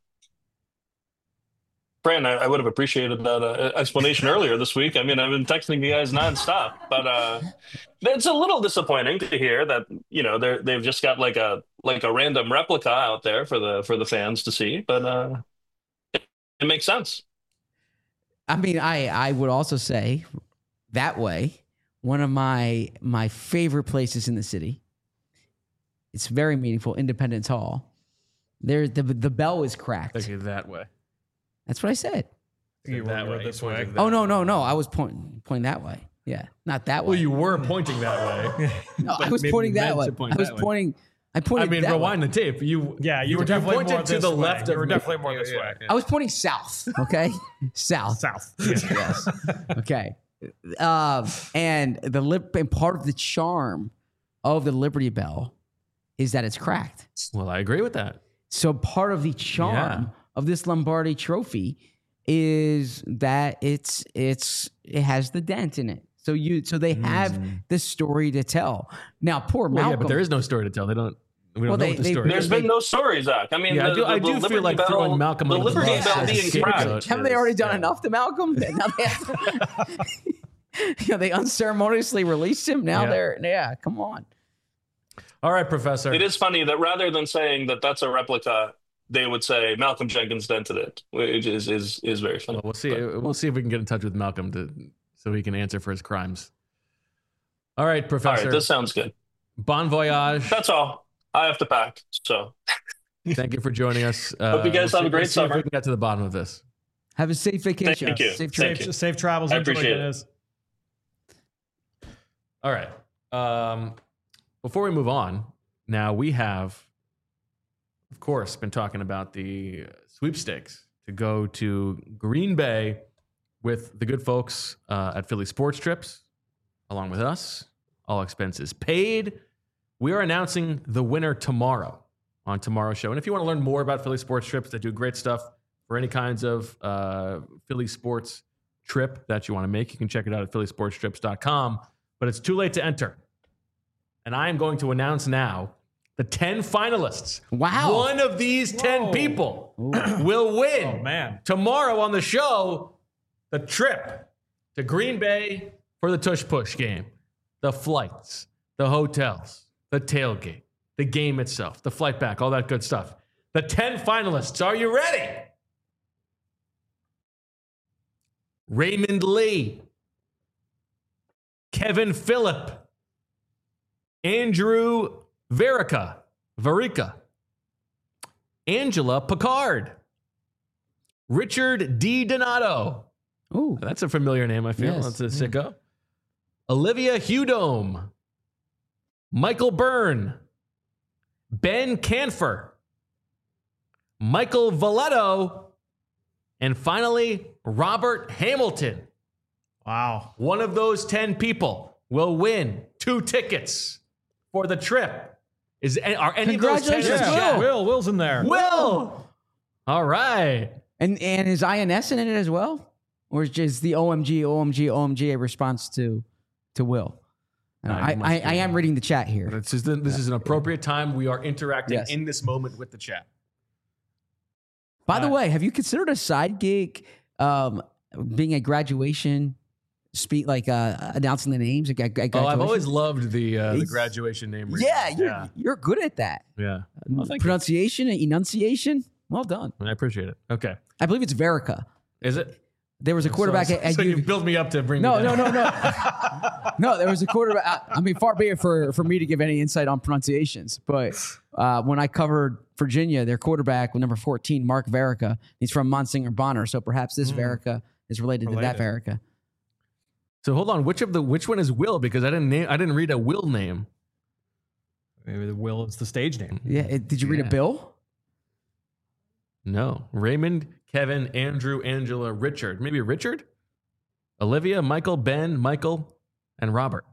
Fran, I, I would have appreciated that uh, explanation earlier this week. I mean, I've been texting you guys nonstop, but uh, it's a little disappointing to hear that you know they're they've just got like a like a random replica out there for the for the fans to see. But uh, it, it makes sense. I mean, I, I would also say that way, one of my my favorite places in the city. It's very meaningful, Independence Hall. There, the the bell is cracked. Okay, that way. That's what I said. You that were way. this You way. pointed Oh no, no, no! I was pointing pointing that way. Yeah, not that way. Well, you were pointing that way. no, I but was maybe pointing you that meant way. to point I was that way. pointing. I I pointed. mean, that rewind way. the tape. You, Yeah, you were definitely pointed more to this the way. left You of were me. definitely more this Yeah, way. yeah. I was pointing south. Okay, south. South. Yes. Okay. Uh, and the lip and part of the charm of the Liberty Bell is that it's cracked. Well, I agree with that. So part of the charm Yeah. of this Lombardi Trophy is that it's it's it has the dent in it. So you so they have the story to tell. Now, poor Well, Malcolm. yeah, but there is no story to tell. They don't. We don't Well, know they- what the they- story There's is. been no story, Zach. I mean, Yeah, the, I do- the, I the do feel Liberty like Bell, throwing Malcolm the under the Liberty bus Bell as a being scapegoat. cracked. Haven't they already done Yeah. enough to Malcolm? Now they, have to, you know, they unceremoniously released him. Now Yeah. they're yeah. Come on. All right, Professor. It is funny that rather than saying that that's a replica, they would say Malcolm Jenkins dented it, which is is is very funny. Well, we'll see. But- We'll see if we can get in touch with Malcolm to so he can answer for his crimes. All right, All Professor. right, this sounds good. Bon voyage. That's all. I have to pack. So Thank you for joining us. Uh, Hope you guys we'll have a see- great we'll see if summer. we can get to the bottom of this. Have a safe vacation. Thank you. Safe Thank trip. you. Safe, safe travels. I Enjoy appreciate it. it. Is. All right. Um, before we move on, now we have, of course, been talking about the sweepstakes to go to Green Bay with the good folks uh, at Philly Sports Trips, along with us, all expenses paid. We are announcing the winner tomorrow on tomorrow's show. And if you want to learn more about Philly Sports Trips, they do great stuff for any kinds of uh, Philly sports trip that you want to make. You can check it out at philly sports trips dot com. But it's too late to enter. And I am going to announce now the ten finalists. Wow. One of these ten Whoa. people will win Oh man. tomorrow on the show the trip to Green Bay for the Tush Push game, the flights, the hotels, the tailgate, the game itself, the flight back, all that good stuff. The ten finalists. Are you ready? Raymond Lee, Kevin Phillip, Andrew Verica, Verica, Angela Picard, Richard D. Donato. Ooh. That's a familiar name, I feel. Yes. That's a sicko. Olivia Hudome, Michael Byrne, Ben Canfer, Michael Valeto, and finally, Robert Hamilton. Wow. One of those ten people will win two tickets for the trip. Is are any of those ten in the Congratulations, chat? Will. Will. Will's in there. Will. All right. And and is I N S in it as well? Or is just the O M G, O M G, O M G a response to to Will? Uh, No, I, it must I, be. I am reading the chat here. This is, the, this is an appropriate time. We are interacting Yes. in this moment with the chat. By the Uh, way, have you considered a side gig um, being a graduation speak, like uh, announcing the names? At, at Oh, I've graduation? always loved the uh, the It's- graduation name. reading. Yeah, you're, yeah, you're good at that. yeah. Well, thank you. Pronunciation and enunciation. Well done. I appreciate it. Okay, I believe it's Verica. is it? There was a quarterback So, at, at so you U- build me up to bring. No, me no, down. no, no. No, there was a quarterback. I- I mean, far be it for, for me to give any insight on pronunciations. But uh, when I covered Virginia, their quarterback with number fourteen, Mark Verica, he's from Monsignor Bonner. So perhaps this Verica is related, to that Verica. So hold on. Which of the which one is Will? Because I didn't name. I didn't read a Will name. Maybe the Will is the stage name. Yeah. it- did you read Yeah. a bill? No. Raymond, Kevin, Andrew, Angela, Richard. Maybe Richard, Olivia, Michael, Ben, Michael, and Robert.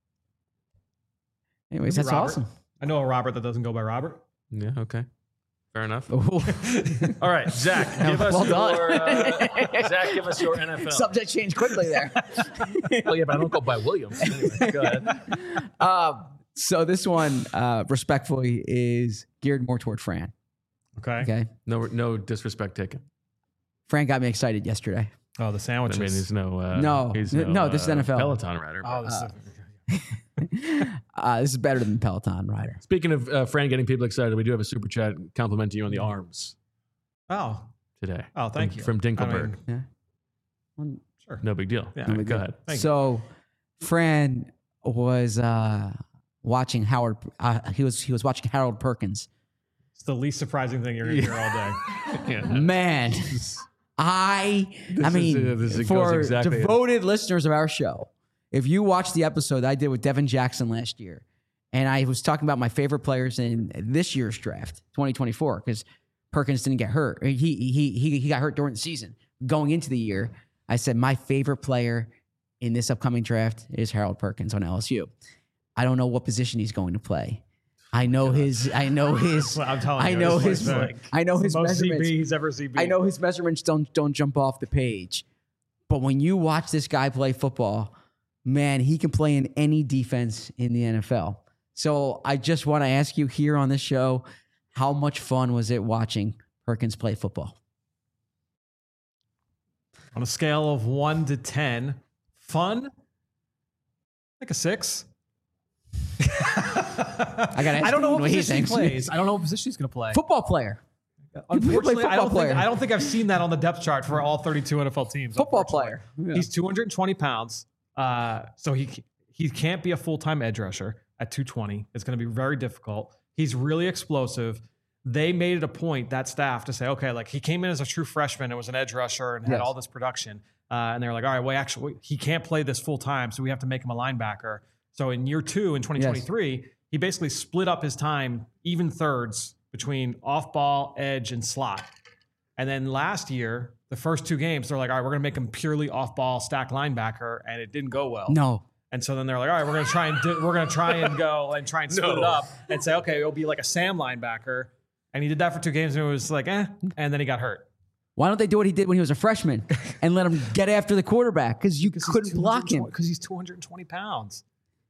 Anyways, Maybe that's Robert. awesome. I know a Robert that doesn't go by Robert. Yeah. Okay. Fair enough. Ooh. All right, Zach. Give us Well done. your. Uh, Zach, give us your N F L. Subject changed quickly there. Oh yeah, but I don't go by Williams. Anyway, go ahead. um, so this one, uh, respectfully, is geared more toward Fran. Okay. Okay. No, no disrespect taken. Fran got me excited yesterday. Oh, the I sandwiches. mean, he's no. Uh, No. he's N- no, this is uh, N F L. Peloton rider. oh, this Uh, is, Uh, this is better than Peloton Rider. Speaking of uh, Fran getting people excited, we do have a super chat complimenting you on the arms oh, today. oh, thank from, you. From I Dinkelberg. mean, Yeah. sure. No big deal. Yeah. All right, go ahead. Thank you. So, Fran was uh, watching Howard. Uh, he was he was watching Harold Perkins. It's the least surprising thing you're going to hear all day. Yeah. Man, I I is- mean, uh, this goes for exactly- devoted listeners of our show, if you watched the episode I did with Devin Jackson last year, and I was talking about my favorite players in this year's draft, twenty twenty-four, because Perkins didn't get hurt. He he he he got hurt during the season. Going into the year, I said my favorite player in this upcoming draft is Harold Perkins on L S U. I don't know what position he's going to play. I know his. I know his. I'm telling you, I know it's his. like, I know his most C B measurements. he's ever C B. I know his measurements don't don't jump off the page, but when you watch this guy play football, man, he can play in any defense in the N F L. So I just want to ask you here on this show, how much fun was it watching Perkins play football? On a scale of one to ten, fun, like a six. I got. I don't know what what he position he thinks. plays. I don't know what position he's going to play. Football player. Unfortunately, I don't, football think, player. I don't think I've seen that on the depth chart for all thirty-two N F L teams. Football unfortunately. player. Yeah. He's two hundred twenty pounds, uh, so he he can't be a full-time edge rusher at two twenty. It's going to be very difficult. He's really explosive. They made it a point, that staff, to say, okay, like he came in as a true freshman and was an edge rusher and had Yes. all this production. Uh, and they were like, all right, well, actually, he can't play this full-time, so we have to make him a linebacker. So in year two, in twenty twenty-three, yes. he basically split up his time, even thirds, between off-ball, edge, and slot. And then last year, the first two games, they're like, all right, we're going to make him purely off-ball stack linebacker, and it didn't go well. No. And so then they're like, all right, we're going to try and do, we're going to try and go and try and split No. it up and say, okay, it'll be like a Sam linebacker. And he did that for two games, and it was like, eh. And then he got hurt. Why don't they do what he did when he was a freshman and let him get after the quarterback? Because you couldn't block him. Because he's two hundred twenty pounds.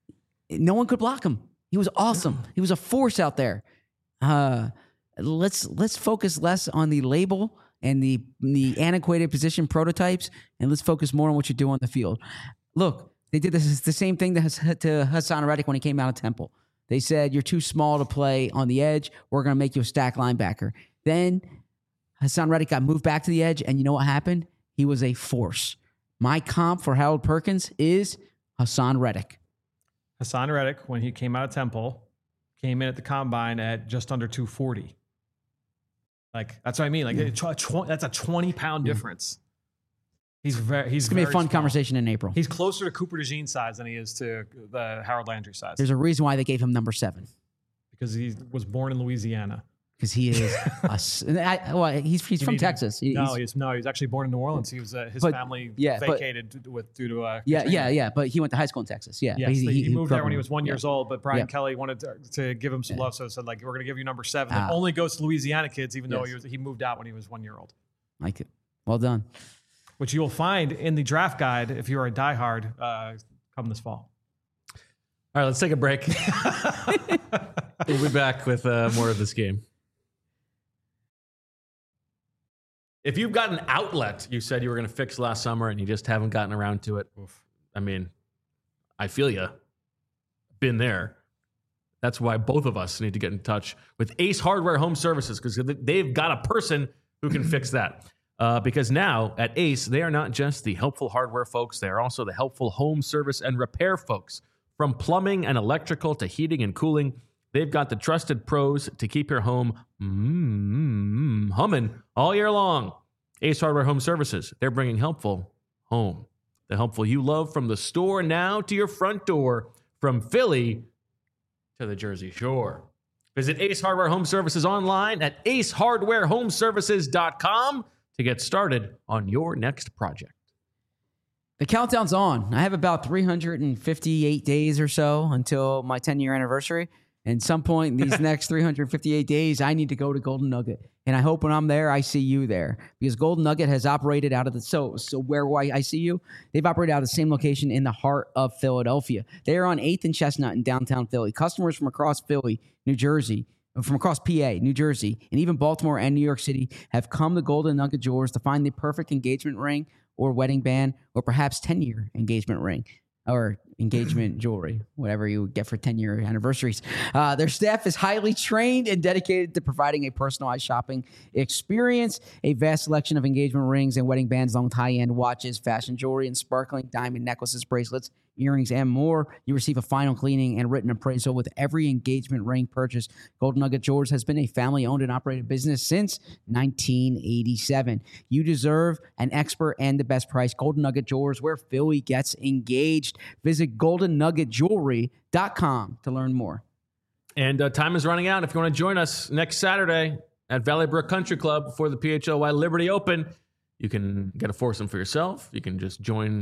No one could block him. He was awesome. He was a force out there. Uh, let's let's focus less on the label and the the antiquated position prototypes, and let's focus more on what you do on the field. Look, they did this the same thing to, to Hassan Reddick when he came out of Temple. They said, you're too small to play on the edge. We're going to make you a stack linebacker. Then Hassan Reddick got moved back to the edge, and you know what happened? He was a force. My comp for Harold Perkins is Hassan Reddick. Hassan Reddick, when he came out of Temple, came in at the combine at just under two forty. Like, that's what I mean. Like, yeah. tw- tw- that's a twenty pound yeah. difference. He's very, he's it's going to be a fun small. conversation in April. He's closer to Cooper DeJean size than he is to the Harold Landry size. There's a reason why they gave him number seven. Because he was born in Louisiana. Because he is, a, I, well, he's he's from mean, Texas. He, no, he's, he's no, he's actually born in New Orleans. He was uh, his but, family yeah, vacated but, with due to uh, yeah, Katrina. yeah, yeah. But he went to high school in Texas. Yeah, yes, he, he, he, he moved there when he was one yeah. years old. But Brian yeah. Kelly wanted to, to give him some yeah. love, so said like, we're going to give you number seven. That ah. only goes to Louisiana kids, even though yes. he was he moved out when he was one year old. Like it. Well done. Which you will find in the draft guide if you are a diehard uh, come this fall. All right, let's take a break. We'll be back with uh, more of this game. If you've got an outlet you said you were going to fix last summer and you just haven't gotten around to it, oof, I mean, I feel you. Been there. That's why both of us need to get in touch with Ace Hardware Home Services, because they've got a person who can fix that. Uh, because now at Ace, they are not just the helpful hardware folks, they are also the helpful home service and repair folks. From plumbing and electrical to heating and cooling, they've got the trusted pros to keep your home mm, humming all year long. Ace Hardware Home Services, they're bringing helpful home. The helpful you love from the store now to your front door, from Philly to the Jersey Shore. Visit Ace Hardware Home Services online at ace hardware home services dot com to get started on your next project. The countdown's on. I have about three hundred fifty-eight days or so until my ten-year anniversary. And some point in these next three hundred fifty-eight days, I need to go to Golden Nugget. And I hope when I'm there, I see you there. Because Golden Nugget has operated out of the... So, so where will I, I see you? They've operated out of the same location in the heart of Philadelphia. They are on eighth and Chestnut in downtown Philly. Customers from across Philly, New Jersey, from across P A, New Jersey, and even Baltimore and New York City have come to Golden Nugget Jewelers to find the perfect engagement ring or wedding band or perhaps ten-year engagement ring or engagement jewelry, whatever you get for ten-year anniversaries. Uh, their staff is highly trained and dedicated to providing a personalized shopping experience. A vast selection of engagement rings and wedding bands, along with high-end watches, fashion jewelry, and sparkling diamond necklaces, bracelets, earrings, and more. You receive a final cleaning and written appraisal with every engagement ring purchase. Golden Nugget Jewelers has been a family-owned and operated business since nineteen eighty-seven. You deserve an expert and the best price. Golden Nugget Jewelers, where Philly gets engaged. Visit golden nugget jewelry dot com to learn more. And uh, time is running out. If you want to join us next Saturday at Valley Brook Country Club before the P H L Y Liberty Open, you can get a foursome for yourself. You can just join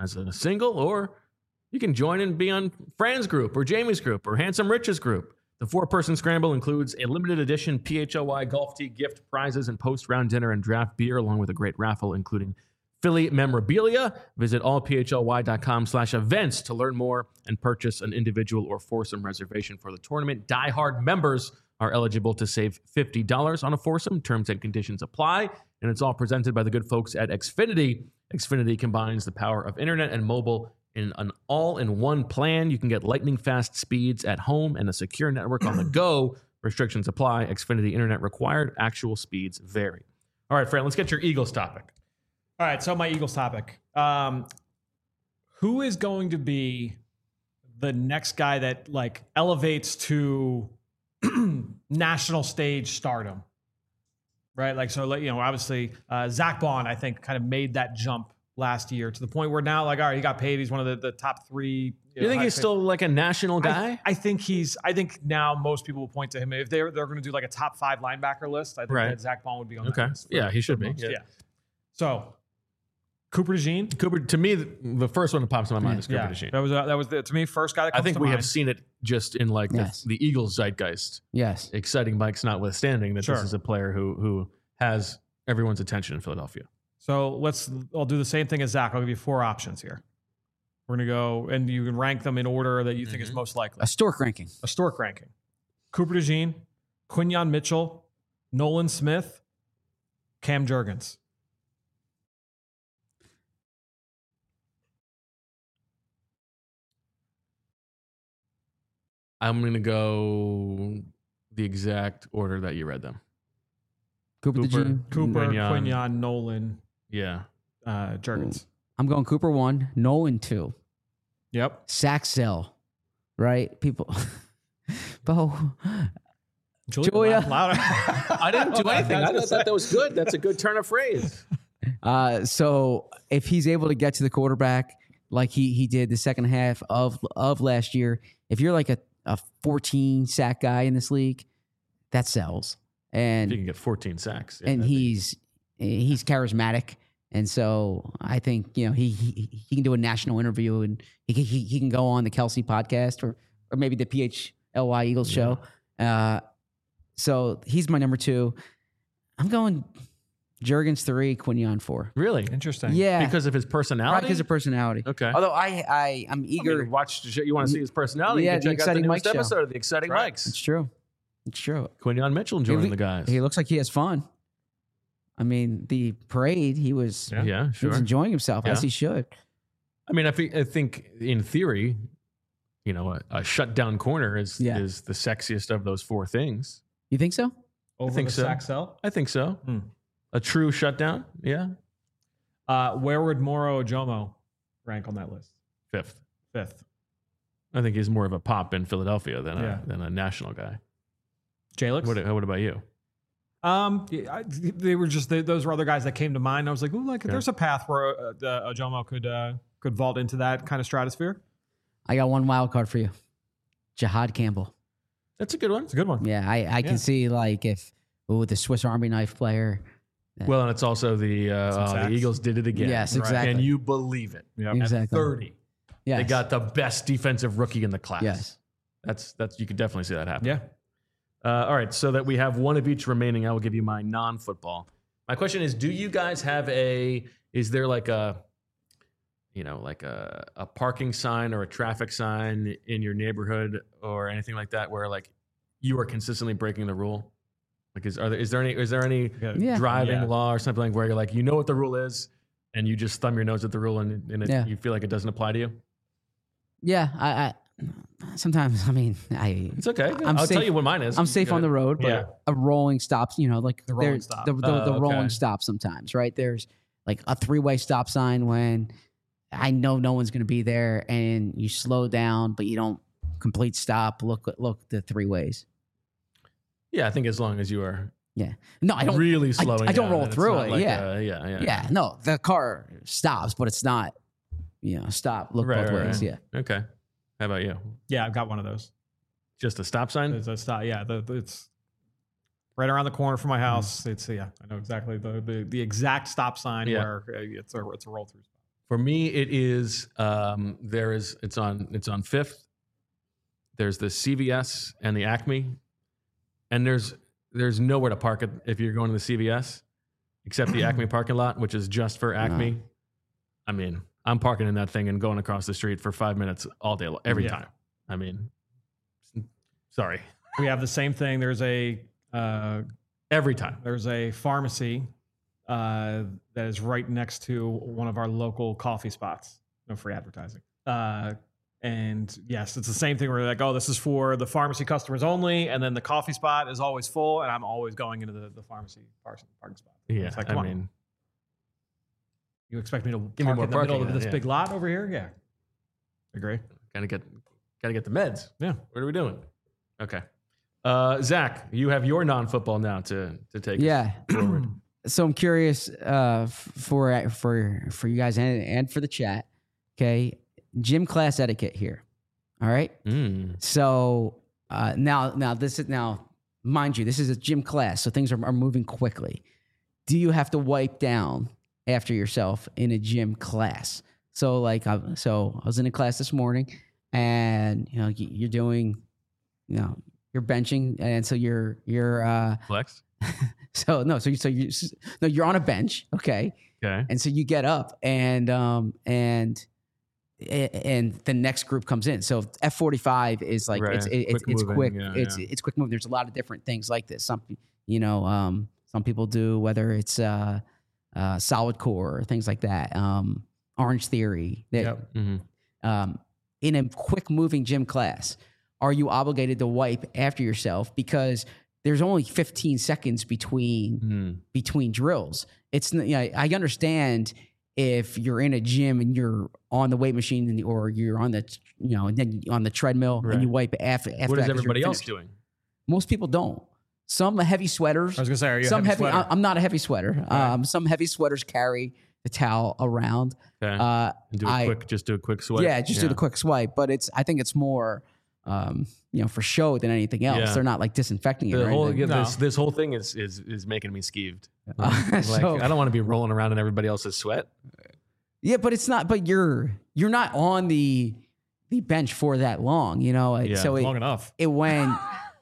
as a single, or you can join and be on Fran's group or Jamie's group or Handsome Rich's group. The four-person scramble includes a limited edition P H L Y golf tee gift, prizes, and post-round dinner and draft beer, along with a great raffle, including Philly memorabilia. Visit allphly.com slash events to learn more and purchase an individual or foursome reservation for the tournament. Die-hard members are eligible to save fifty dollars on a foursome. Terms and conditions apply, and it's all presented by the good folks at Xfinity. Xfinity combines the power of internet and mobile in an all-in-one plan. You can get lightning-fast speeds at home and a secure network on the go. Restrictions apply. Xfinity internet required. Actual speeds vary. All right, Fran, let's get your Eagles topic. All right, so my Eagles topic. Um, who is going to be the next guy that like elevates to national stage stardom? Right, like so, like, you know, obviously uh, Zach Bond, I think, kind of made that jump last year to the point where now, like, all right, he got paid. He's one of the, the top three. You, you think he's paid. Still like a national guy? I, I think he's. I think now most people will point to him if they're they're going to do like a top five linebacker list. I think right. that Zach Bond would be on okay. that list. For, yeah, he should be. Yeah. yeah. So Cooper DeJean. Cooper, to me, the, the first one that pops in my mind yeah. is Cooper yeah. DeJean. That was uh, that was the, to me first guy that comes I think to we mind. have seen it just in like yes. the, the Eagles zeitgeist. Yes, exciting Mike's notwithstanding that sure. this is a player who who has everyone's attention in Philadelphia. So let's, I'll do the same thing as Zach. I'll give you four options here. We're going to go, and you can rank them in order that you think mm-hmm. is most likely. A stork ranking. A stork ranking. Cooper DeJean, Quinyon Mitchell, Nolan Smith, Cam Jurgens. I'm going to go the exact order that you read them. Cooper, Cooper, DeJean. Cooper Quinyon, Quinyon Nolan, yeah, uh, Jurgens. I'm going Cooper one, Nolan two. Yep. Sack cell, right? People, Bo, Julia. Julia. Louder. I didn't do anything. I just thought that was good. That's a good turn of phrase. Uh, so if he's able to get to the quarterback like he he did the second half of of last year, if you're like a, a fourteen sack guy in this league, that sells. And if you can get fourteen sacks, yeah, and he's be... he's charismatic, and so I think you know he he, he can do a national interview, and he, he he can go on the Kelsey podcast or or maybe the P H L Y Eagles yeah. show. Uh, so he's my number two. I'm going Jurgens three, Quinyon four. Really interesting. Yeah, because of his personality. Right, because of personality. Okay. Although I I I'm eager. I mean, watch. You want to see his personality? Yeah, you can the check out the Exciting newest Mike episode show. of the Exciting right. Mikes. It's true. It's true. Quinyon Mitchell joining he, the guys. He looks like he has fun. I mean, the parade, he was, yeah, yeah sure. he was enjoying himself yeah. as he should. I mean, I, fe- I think in theory, you know, a, a shutdown corner is yeah. is the sexiest of those four things. You think so? Over I think the so. sack cell? I think so. Hmm. A true shutdown, yeah. Uh, where would Moro Ojomo rank on that list? Fifth. Fifth. I think he's more of a pop in Philadelphia than yeah. a than a national guy. Jalix? What, what about you? Um, I, they were just they, those were other guys that came to mind. I was like, ooh, like okay. there's a path where uh, uh, Ojomo could uh, could vault into that kind of stratosphere. I got one wild card for you, Jihad Campbell. That's a good one. It's a good one. Yeah, I, I can yeah. see like if ooh, the Swiss Army knife player. Well, and it's also the uh, oh, the Eagles did it again. Yes, exactly. And you believe it. Yep. Exactly. At thirty. Yes. They got the best defensive rookie in the class. Yes. That's that's you could definitely see that happen. Yeah. Uh, all right, so that we have one of each remaining, I will give you my non-football. My question is, do you guys have a, is there like a, you know, like a, a parking sign or a traffic sign in your neighborhood or anything like that where like you are consistently breaking the rule? Like is, are there, is there any, is there any yeah. driving yeah. law or something like where you're like, you know what the rule is and you just thumb your nose at the rule and, and it, yeah. you feel like it doesn't apply to you? Yeah, I, I sometimes, I mean, I. It's okay. I'm I'll safe, tell you what mine is. I'm safe on the road, but yeah. a rolling stops, you know, like the rolling stop. The, the, uh, the okay. rolling stop sometimes, right? There's like a three-way stop sign when I know no one's going to be there and you slow down, but you don't complete stop, look, look the three ways. Yeah, I think as long as you are yeah. No, I don't really slowing I, I don't down, roll through it. Like yeah. A, yeah. Yeah. Yeah. No, the car stops, but it's not, you know, stop, look right, both right, ways. right. Yeah. Okay. How about you? Yeah, I've got one of those. Just a stop sign? It's a stop. Yeah, the, the, it's right around the corner from my house. Mm. It's yeah, I know exactly the the, the exact stop sign yeah. where it's a it's a roll through spot. For me, it is um, there is it's on it's on Fifth. There's the C V S and the Acme, and there's there's nowhere to park it if you're going to the C V S, except the Acme parking lot, which is just for Acme. No. I mean, I'm parking in that thing and going across the street for five minutes all day, every Yeah. time. I mean, sorry, We have the same thing. There's a uh, every time. there's a pharmacy uh, that is right next to one of our local coffee spots. No free advertising. Uh, and yes, it's the same thing. We're like, oh, this is for the pharmacy customers only, and then the coffee spot is always full, and I'm always going into the, the pharmacy parking parking spot. Yeah, It's like, I come on. mean, You expect me to Give me park more in the middle parking, of this yeah. big lot over here? Yeah. Agree. gotta get gotta get the meds. Yeah. What are we doing? Okay, uh, Zach, you have your non-football now to to take. us Yeah. forward. So I'm curious uh, f- for for for you guys and, and for the chat. Okay, gym class etiquette here. All right. Mm. So uh, now now this is now mind you, this is a gym class, so things are, are moving quickly. Do you have to wipe down after yourself in a gym class? So like I, so I was in a class this morning, and you know y- you're doing, you know, you're benching, and so you're you're uh, Flex. so no, so you so you no, you're on a bench, okay, Okay. and so you get up, and um and and the next group comes in. So F forty-five is like Right. it's it, it's Quick it's moving, quick, yeah, it's yeah. it's quick move. There's a lot of different things like this. Some you know um some people do, whether it's uh, uh solid core or things like that. Um, Orange Theory. That, Yep. hmm um, in a quick moving gym class, are you obligated to wipe after yourself because there's only fifteen seconds between Mm. between drills? It's n- you know, I understand if you're in a gym and you're on the weight machine and- or you're on the you know and then on the treadmill Right. and you wipe after after What that is 'cause you're everybody else finished. doing? Most people don't. Some heavy sweaters. I was gonna say, are you a some heavy heavy. sweater? I- I'm not a heavy sweater. Right. Um, some heavy sweaters carry the towel around. Okay. Uh, and do a I- quick, just do a quick swipe. yeah, just do the quick swipe. But it's I think it's more um, you know for show than anything else. Yeah. They're not like disinfecting it The or whole anything. yeah, No. this this whole thing is is is making me skeeved. Uh, Like so- I don't want to be rolling around in everybody else's sweat. Yeah, but it's not. But you're you're not on the the bench for that long, you know. Yeah, so it, Long enough. it went.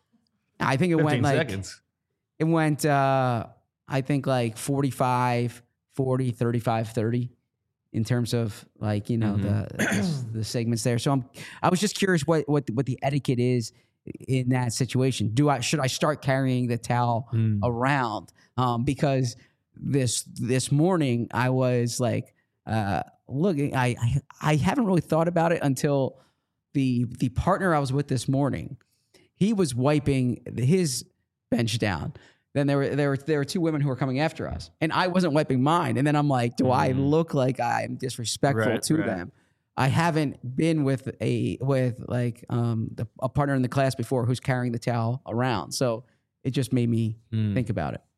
I think it went Fifteen like seconds. it went. Uh, I think like forty-five, forty, thirty-five, thirty in terms of like you know Mm-hmm. the the segments there. So I'm I was just curious what what what the etiquette is in that situation. Do I should I start carrying the towel Mm. around? Um, because this this morning I was like uh, looking. I, I I haven't really thought about it until the the partner I was with this morning. He was wiping his bench down. Then there were there were there were two women who were coming after us, and I wasn't wiping mine. And then I'm like, do I Mhm. look like I'm disrespectful Right, to right. them? I haven't been with a with like um the, a partner in the class before who's carrying the towel around, so it just made me Mm. think about it.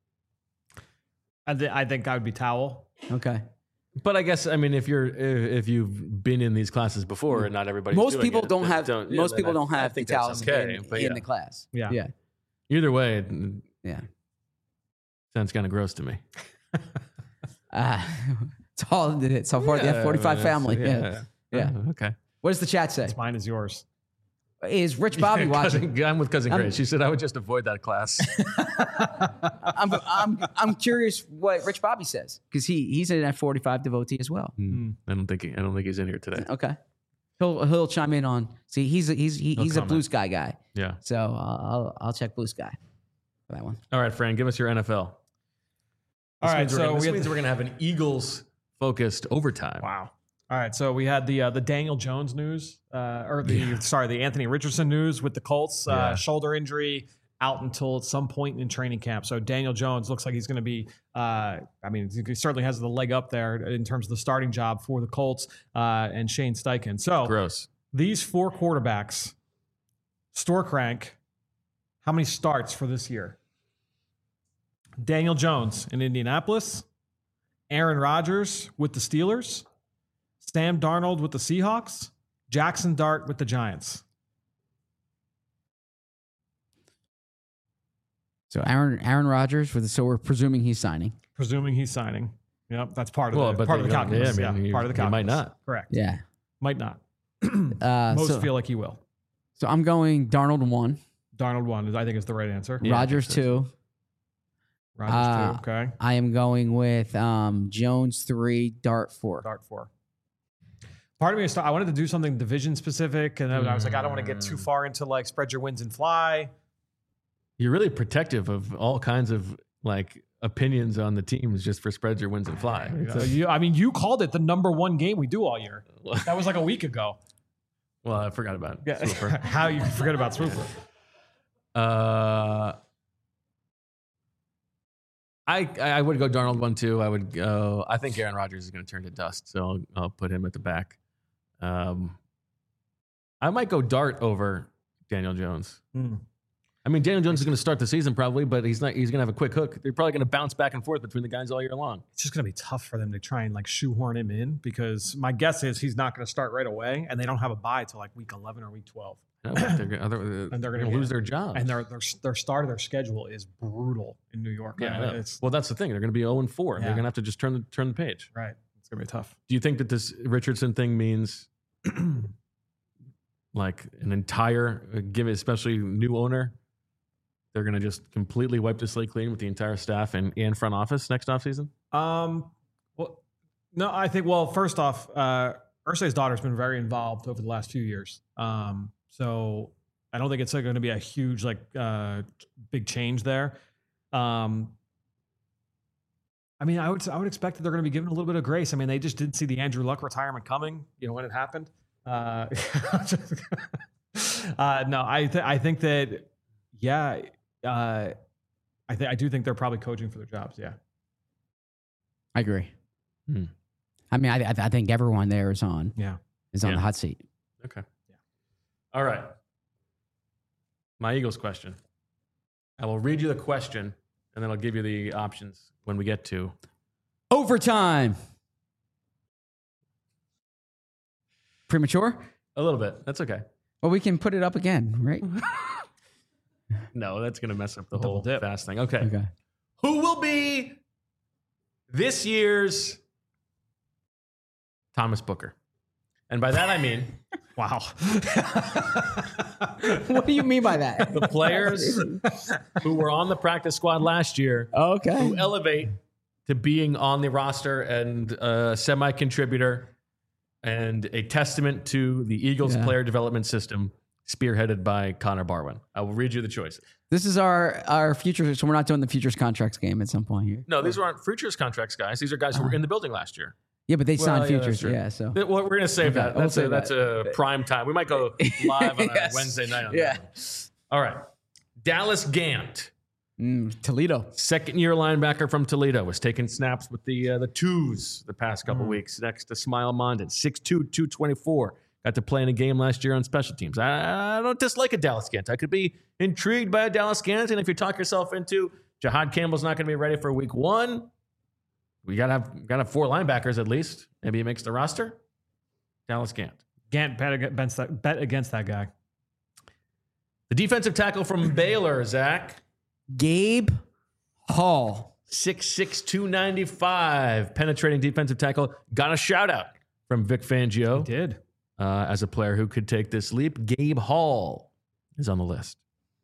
I, th- I think I would be towel. Okay, But I guess I mean if you're if, if you've been in these classes before and not everybody most people don't have yeah, most then people I- don't I have the think that's towels okay, in, but in yeah. the class. Yeah. yeah, Either way, it yeah. sounds kind of gross to me. Uh, it's all it's all part of the F forty-five Yeah, family. Yeah. yeah. Oh, okay. What does the chat say? It's mine is yours. Is Rich Bobby watching? Cousin, I'm with cousin I'm- Grace. She said I would just avoid that class. I'm, I'm I'm curious what Rich Bobby says because he he's an F forty-five devotee as well. Mm. I don't think he, I don't think he's in here today. Okay, he'll he'll chime in on. See, he's a, he's he, No he's a comment. Blue Sky guy, Yeah. so I'll I'll, I'll check Blue Sky for that one. All right, Fran, give us your N F L. All This right, means we're so gonna, this we had means the- we're gonna have an Eagles focused overtime. Wow. All right, so we had the uh, the Daniel Jones news, uh, or the sorry, the Anthony Richardson news with the Colts uh, Yeah. shoulder injury out until at some point in training camp. So Daniel Jones looks like he's going to be. Uh, I mean, he certainly has the leg up there in terms of the starting job for the Colts uh, and Shane Steichen. So Gross. these four quarterbacks, Storkrank, how many starts for this year? Daniel Jones in Indianapolis, Aaron Rodgers with the Steelers, Sam Darnold with the Seahawks, Jackson Dart with the Giants. So Aaron Aaron Rodgers for the so we're presuming he's signing. Presuming he's signing. Yep, that's part of Well, the but part of the they don't- calculus. yeah, Yeah, I mean, you- part of the you calculus. might not. Correct. Yeah. Might not. Uh, Most so, feel like he will. so I'm going Darnold one, Darnold one, is- I think, is the right answer. Yeah, I Rogers think so. two. Rodgers Uh, two. Okay. I am going with um, Jones three, Dart four. Dart four. Part of me is I wanted to do something division specific, and then I was like, I don't want to get too far into like spread your wins and fly. You're really protective of all kinds of like opinions on the teams just for spreads or wins and fly. It's Uh, a- you, I mean, you called it the number one game we do all year. That was like a week ago. well, I forgot about Yeah. Swooper. How you forget about Swooper? Uh, I I would go Darnold one too. I would go. I think Aaron Rodgers is going to turn to dust, so I'll, I'll put him at the back. Um, I might go Dart over Daniel Jones. Hmm. I mean, Daniel Jones is going to start the season probably, but he's not. He's going to have a quick hook. They're probably going to bounce back and forth between the guys all year long. It's just going to be tough for them to try and like shoehorn him in because my guess is he's not going to start right away, and they don't have a bye till like week eleven or week twelve. No, they're, gonna- other- And they're going gonna to lose get- their job. And their, their their start of their schedule is brutal in New York. yeah, I I know. mean, it's well, that's the thing. They're going to be zero and four. They're Yeah. going to have to just turn the turn the page. right. It's going to be tough. Do you think that this Richardson thing means like an entire, uh, give it, especially new owner, they're going to just completely wipe the slate clean with the entire staff and, and front office next offseason? Um, well, no, I think, well, first off, uh, Irsay's daughter's been very involved over the last few years. Um, so I don't think it's going to be a huge, like, uh, big change there. Um, I mean, I would, I would expect that they're going to be given a little bit of grace. I mean, they just didn't see the Andrew Luck retirement coming, you know, when it happened. Uh, uh, no, I, th- I think that, yeah, uh, I think, I do think they're probably coaching for their jobs. Yeah. I agree. Hmm. I mean, I, I I think everyone there is on Yeah. is on Yeah. the hot seat. Okay. Yeah. All right. My Eagles question. I will read you the question, and then I'll give you the options when we get to Overtime. Premature? a little bit. That's okay. Well, we can put it up again, right? No, that's going to mess up the Double whole dip. fast thing. Okay. Okay. Who will be this year's Thomas Booker? And by that I mean Wow. What do you mean by that? the players who were on the practice squad last year Okay. who elevate to being on the roster and a semi-contributor and a testament to the Eagles Yeah. player development system spearheaded by Connor Barwin. I will read you the choices. This is our our future. So we're not doing the futures contracts game at some point here. No, these aren't futures contracts, guys. These are guys who were in the building last year. Yeah, but they Well, signed yeah, that's futures. true. Yeah. So Th- Well, we're going to save Okay, that. we'll That's, a, save that's a prime time. We might go live on Yes. a Wednesday night. On Yeah. that. All right. Dallas Gant, mm, Toledo. second year linebacker from Toledo, was taking snaps with the uh, the twos the past couple weeks next to Smile Mondin. six two, two twenty-four. Got to play in a game last year on special teams. I, I don't dislike a Dallas Gant. I could be intrigued by a Dallas Gant. And if you talk yourself into Jahad Campbell's not going to be ready for week one, we got to have got to have four linebackers at least. Maybe he makes the roster. Dallas Gant. Gant bet against that, bet against that guy. The defensive tackle from Baylor, Zach. Gabe Hall. six six, two ninety-five. Penetrating defensive tackle. Got a shout out from Vic Fangio He did. uh, as a player who could take this leap. Gabe Hall is on the list.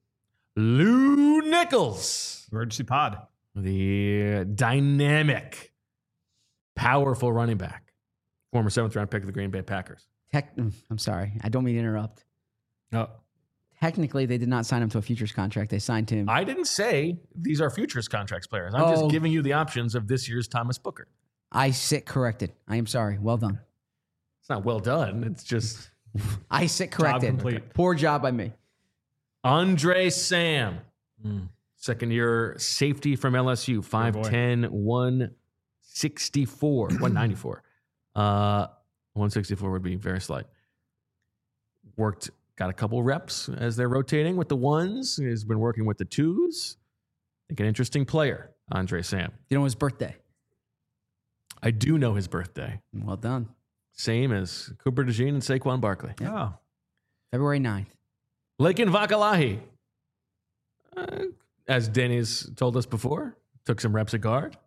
Lou Nichols, Emergency pod. the dynamic, powerful running back, former seventh round pick of the Green Bay Packers. Tech, mm, I'm sorry. I don't mean to interrupt. Oh. Technically, they did not sign him to a futures contract. They signed him. I didn't say these are futures contracts players. I'm Oh. just giving you the options of this year's Thomas Booker. I sit corrected. I am sorry. Well done. It's not well done. It's just I sit corrected. complete. Poor job by me. Andre Sam, Mm. second year safety from L S U, five ten, one sixty-four, one ninety-four. Uh, one sixty-four would be very slight. Worked, got a couple reps as they're rotating with the ones. He's been working with the twos. I think an interesting player, Andre Sam. You know his birthday. I do know his birthday. Well done. Same as Cooper DeJean and Saquon Barkley. Oh. February ninth. Lakin Vakalahi, uh, as Danny's told us before, took some reps at guard.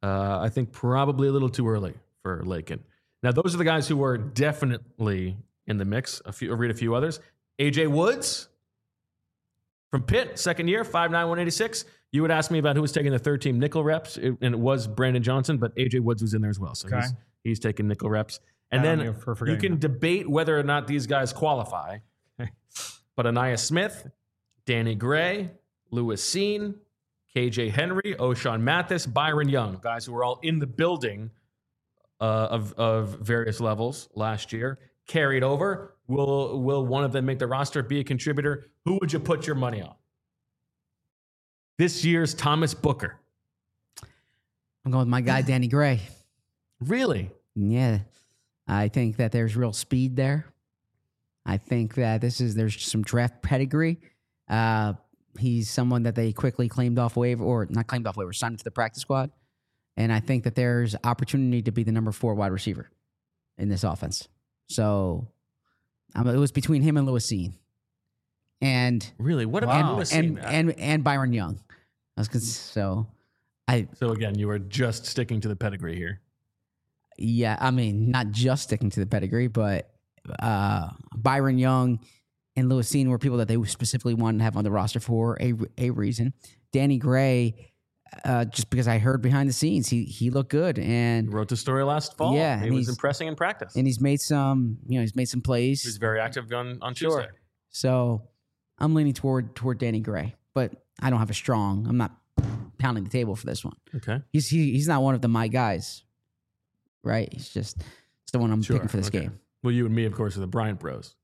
Uh, I think probably a little too early for Lakin. Now, those are the guys who were definitely in the mix. A few, I'll read a few others. A J Woods from Pitt, second year, five nine, one eighty-six. You would ask me about who was taking the third team nickel reps, it, and it was Brandon Johnson, but A J Woods was in there as well. So Okay. he's, he's taking nickel reps. And Bad on then you for you forgetting can that. debate whether or not these guys qualify. But Anaya Smith, Danny Gray, Lewis Seen, K J Henry, O'Shawn Mathis, Byron Young, guys who were all in the building uh, of, of various levels last year, carried over. Will, will one of them make the roster, be a contributor? Who would you put your money on? This year's Thomas Booker. I'm going with my guy, Danny Gray. Really? Yeah. I think that there's real speed there. I think that this is, there's some draft pedigree. Uh, he's someone that they quickly claimed off waiver, or not claimed off waiver, signed to the practice squad. And I think that there's opportunity to be the number four wide receiver in this offense. So um, it was between him and Lewis Seen. And Really? What Wow. about Lewis and, Seen? and and Byron Young. I was gonna, so I So again, you were just sticking to the pedigree here. yeah, I mean, not just sticking to the pedigree, but uh, Byron Young and Lewis Seen were people that they specifically wanted to have on the roster for a, a reason. Danny Gray, uh, just because I heard behind the scenes, he he looked good, You and wrote the story last fall. Yeah, he and was he's- impressing in practice. and he's made some, you know, he's made some He was plays. very active on, on Sure. Tuesday. So I'm leaning toward toward Danny Gray, but I don't have a strong. I'm not pounding the table for this one. Okay. He's he, he's not one of the my guys, right? He's just it's the one I'm Sure, picking for this okay. game. Well, you and me, of course, are the Bryant Bros.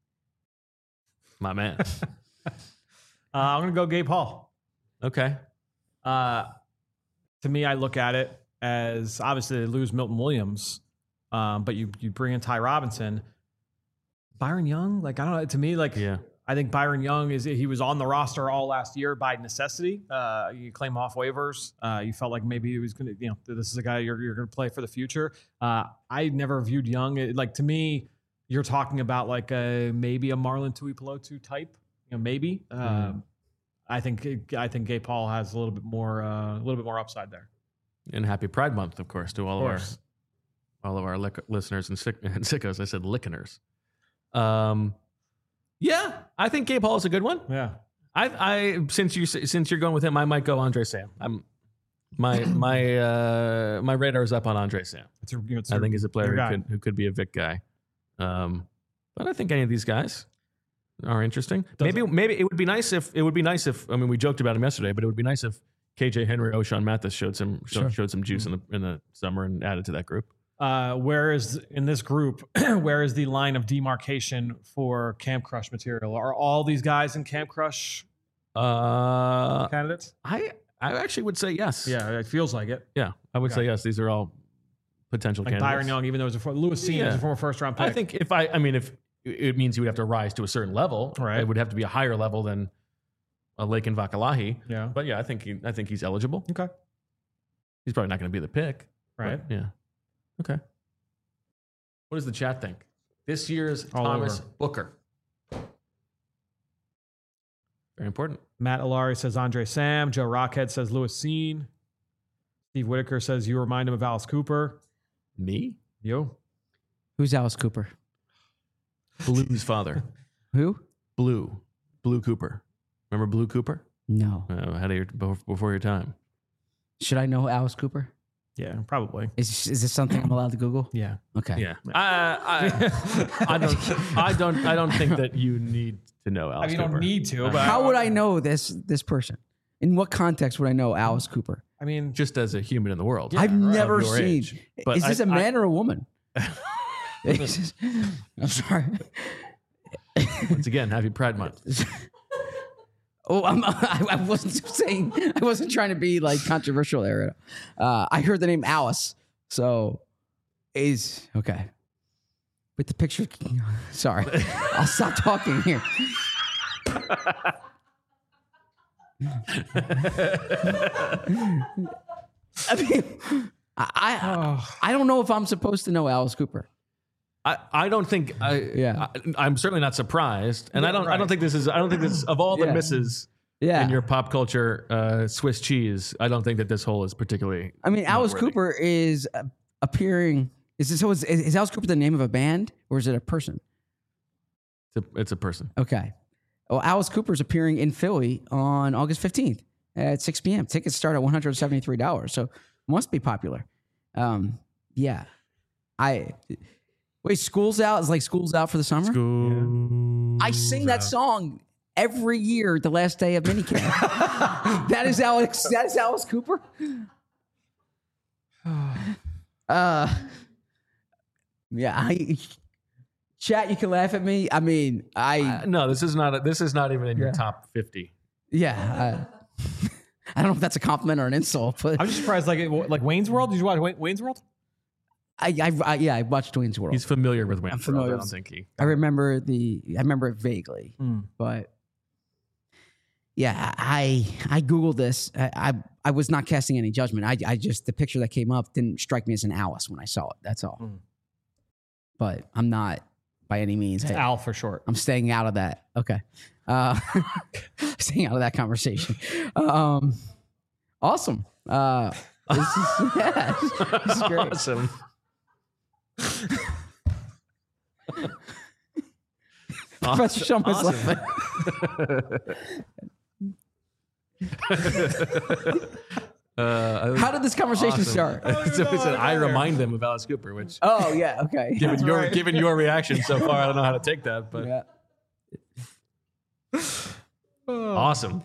My man. Uh, I'm going to go Gabe Hall. Okay. Uh, to me, I look at it as obviously they lose Milton Williams, um, but you you bring in Ty Robinson, Byron Young. Like I don't know. To me, like Yeah. I think Byron Young is he was on the roster all last year by necessity. Uh, you claim off waivers. Uh, you felt like maybe he was going to, you know, this is a guy you're you're going to play for the future. Uh, I never viewed Young it- like to me. You're talking about like a maybe a Marlon Tuipulotu type, you know, maybe. Um, I think I think Gabe Paul has a little bit more uh, a little bit more upside there. And happy Pride Month, of course, to all Of of, course. our all of our lick- listeners and, sick- and sickos. I said lickeners. Um, yeah, I think Gabe Hall is a good one. Yeah. I, I since you since you're going with him, I might go Andre Sam. I'm my my uh, my radar is up on Andre Sam. It's a, you know, it's I a- think he's a player your who guy. could who could be a Vic guy. Um, but I think any of these guys are interesting. Does maybe maybe it would be nice if it would be nice if I mean we joked about him yesterday, but it would be nice if K J Henry, O'Shawn Mathis showed some showed, Sure. showed some juice in the in the summer and added to that group. Uh, where is in this group? Where is the line of demarcation for Camp Crush material? Are all these guys in Camp Crush Uh, candidates? I I actually would say yes. Yeah, it feels like it. yeah, I would Okay. say yes. These are all potential Like candidates. Byron Young, even though it was a for, Lewis Seen Yeah. is a former first round pick. I think if I I mean if it means he would have to rise to a certain level, Right. it would have to be a higher level than a Lakin Vakalahi. yeah. But yeah, I think he, I think he's eligible. Okay. He's probably not going to be the pick. Right. but yeah. Okay. What does the chat think? This year's All Thomas over. Booker. Very important. Matt Alari says Andre Sam. Joe Rockhead says Lewis Seen. Steve Whitaker says you remind him of Alice Cooper. Me? You. Who's Alice Cooper? Blue's father. Who? Blue. Blue Cooper. Remember Blue Cooper? No. Uh, ahead of your, before before your time. Should I know Alice Cooper? Yeah, probably. Is is this something I'm allowed to Google? Yeah. Okay. Yeah. I, I, I don't. I don't. I don't think that you need to know Alice I mean, you Cooper. don't need to, Uh, but How would I know this this person? In what context would I know Alice Cooper? I mean, Just as a human in the world. I've of never your seen. age. But Is this I- a man or a woman? I'm sorry. Once again, happy Pride Month. Oh, I'm, I, I wasn't saying. I wasn't trying to be like controversial there. Uh, I heard the name Alice, so is okay. With the picture, sorry, I'll stop talking here. I mean, I I, I don't know if I'm supposed to know Alice Cooper. I, I don't think I Yeah. I, I'm certainly not surprised, and I don't I right. don't think this is I don't think this is, of all the Yeah. misses Yeah. in your pop culture uh, Swiss cheese, I don't think that this hole is particularly. I mean, Alice noteworthy. Cooper is uh, appearing. Is this so? Is, is Alice Cooper the name of a band or is it a person? It's a, it's a person. Okay. Well, Alice Cooper is appearing in Philly on August fifteenth at six p.m. Tickets start at one hundred seventy-three dollars, so must be popular. Um, yeah. I wait. School's out. It's like school's out for the summer. School. I sing that song every year, the last day of minicamp. that is Alex. That is Alice Cooper. uh, yeah. I, chat, you can laugh at me. I mean, I Uh, no, this is not. A, this is not even in Yeah. your top fifty. yeah. Uh, I don't know if that's a compliment or an insult, but I'm just surprised. Like, it- like Wayne's World. Did you watch Wayne- Wayne's World? I, I, I yeah, I watched Wayne's World. He's familiar with Wayne. I'm familiar I with- don't think he. I remember the. I remember it vaguely, Hmm. but yeah, I I googled this. I, I I was not casting any judgment. I I just the picture that came up didn't strike me as an Alice when I saw it. That's all. Hmm. But I'm not by any means. It's I, Al for short. I'm staying out of that. Okay, uh, staying out of that conversation. Um, awesome. Uh, this is, yeah, this is great. Awesome. Professor Shump is laughing. uh, How did this conversation awesome. start? so he said, I remind them of Alice Cooper, which Oh yeah, okay. given your given your reaction so far, I don't know how to take that, but Yeah. awesome.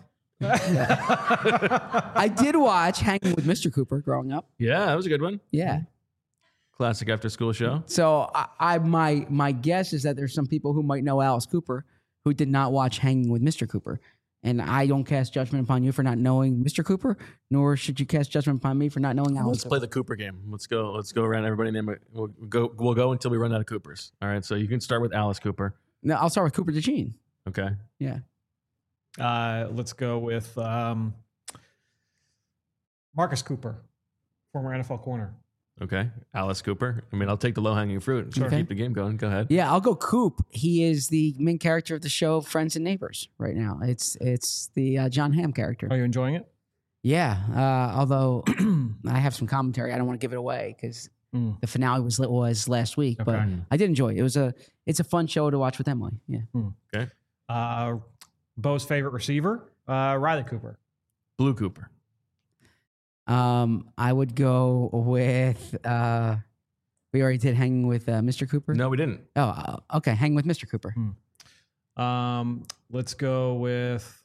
I did watch Hanging with Mister Cooper growing up. Yeah, that was a good one. Yeah. Classic after school show. So I, I my my guess is that there's some people who might know Alice Cooper who did not watch Hanging with Mister Cooper. And I don't cast judgment upon you for not knowing Mister Cooper, nor should you cast judgment upon me for not knowing Alice. Let's play the Cooper game. Let's go. Let's go around. Everybody name it. We'll go. We'll go until we run out of Coopers. All right. So you can start with Alice Cooper. No, I'll start with Cooper DeJean. Okay. Yeah. Uh, let's go with um, Marcus Cooper, former N F L corner. Okay. Alice Cooper. I mean, I'll take the low hanging fruit. Sure. Okay. Keep the game going. Go ahead. Yeah, I'll go Coop. He is the main character of the show Friends and Neighbors right now. It's it's the uh, John Hamm character. Are you enjoying it? Yeah, uh, although I have some commentary, I don't want to give it away because Mm. the finale was was last week. But Okay. I did enjoy it. It was a it's a fun show to watch with Emily. Yeah, Okay. Uh, Bo's favorite receiver, uh, Riley Cooper. Blue Cooper. um, I would go with. Uh, we already did Hanging with uh, Mister Cooper. No, we didn't. Oh, uh, okay. Hanging with Mister Cooper. Um, let's go with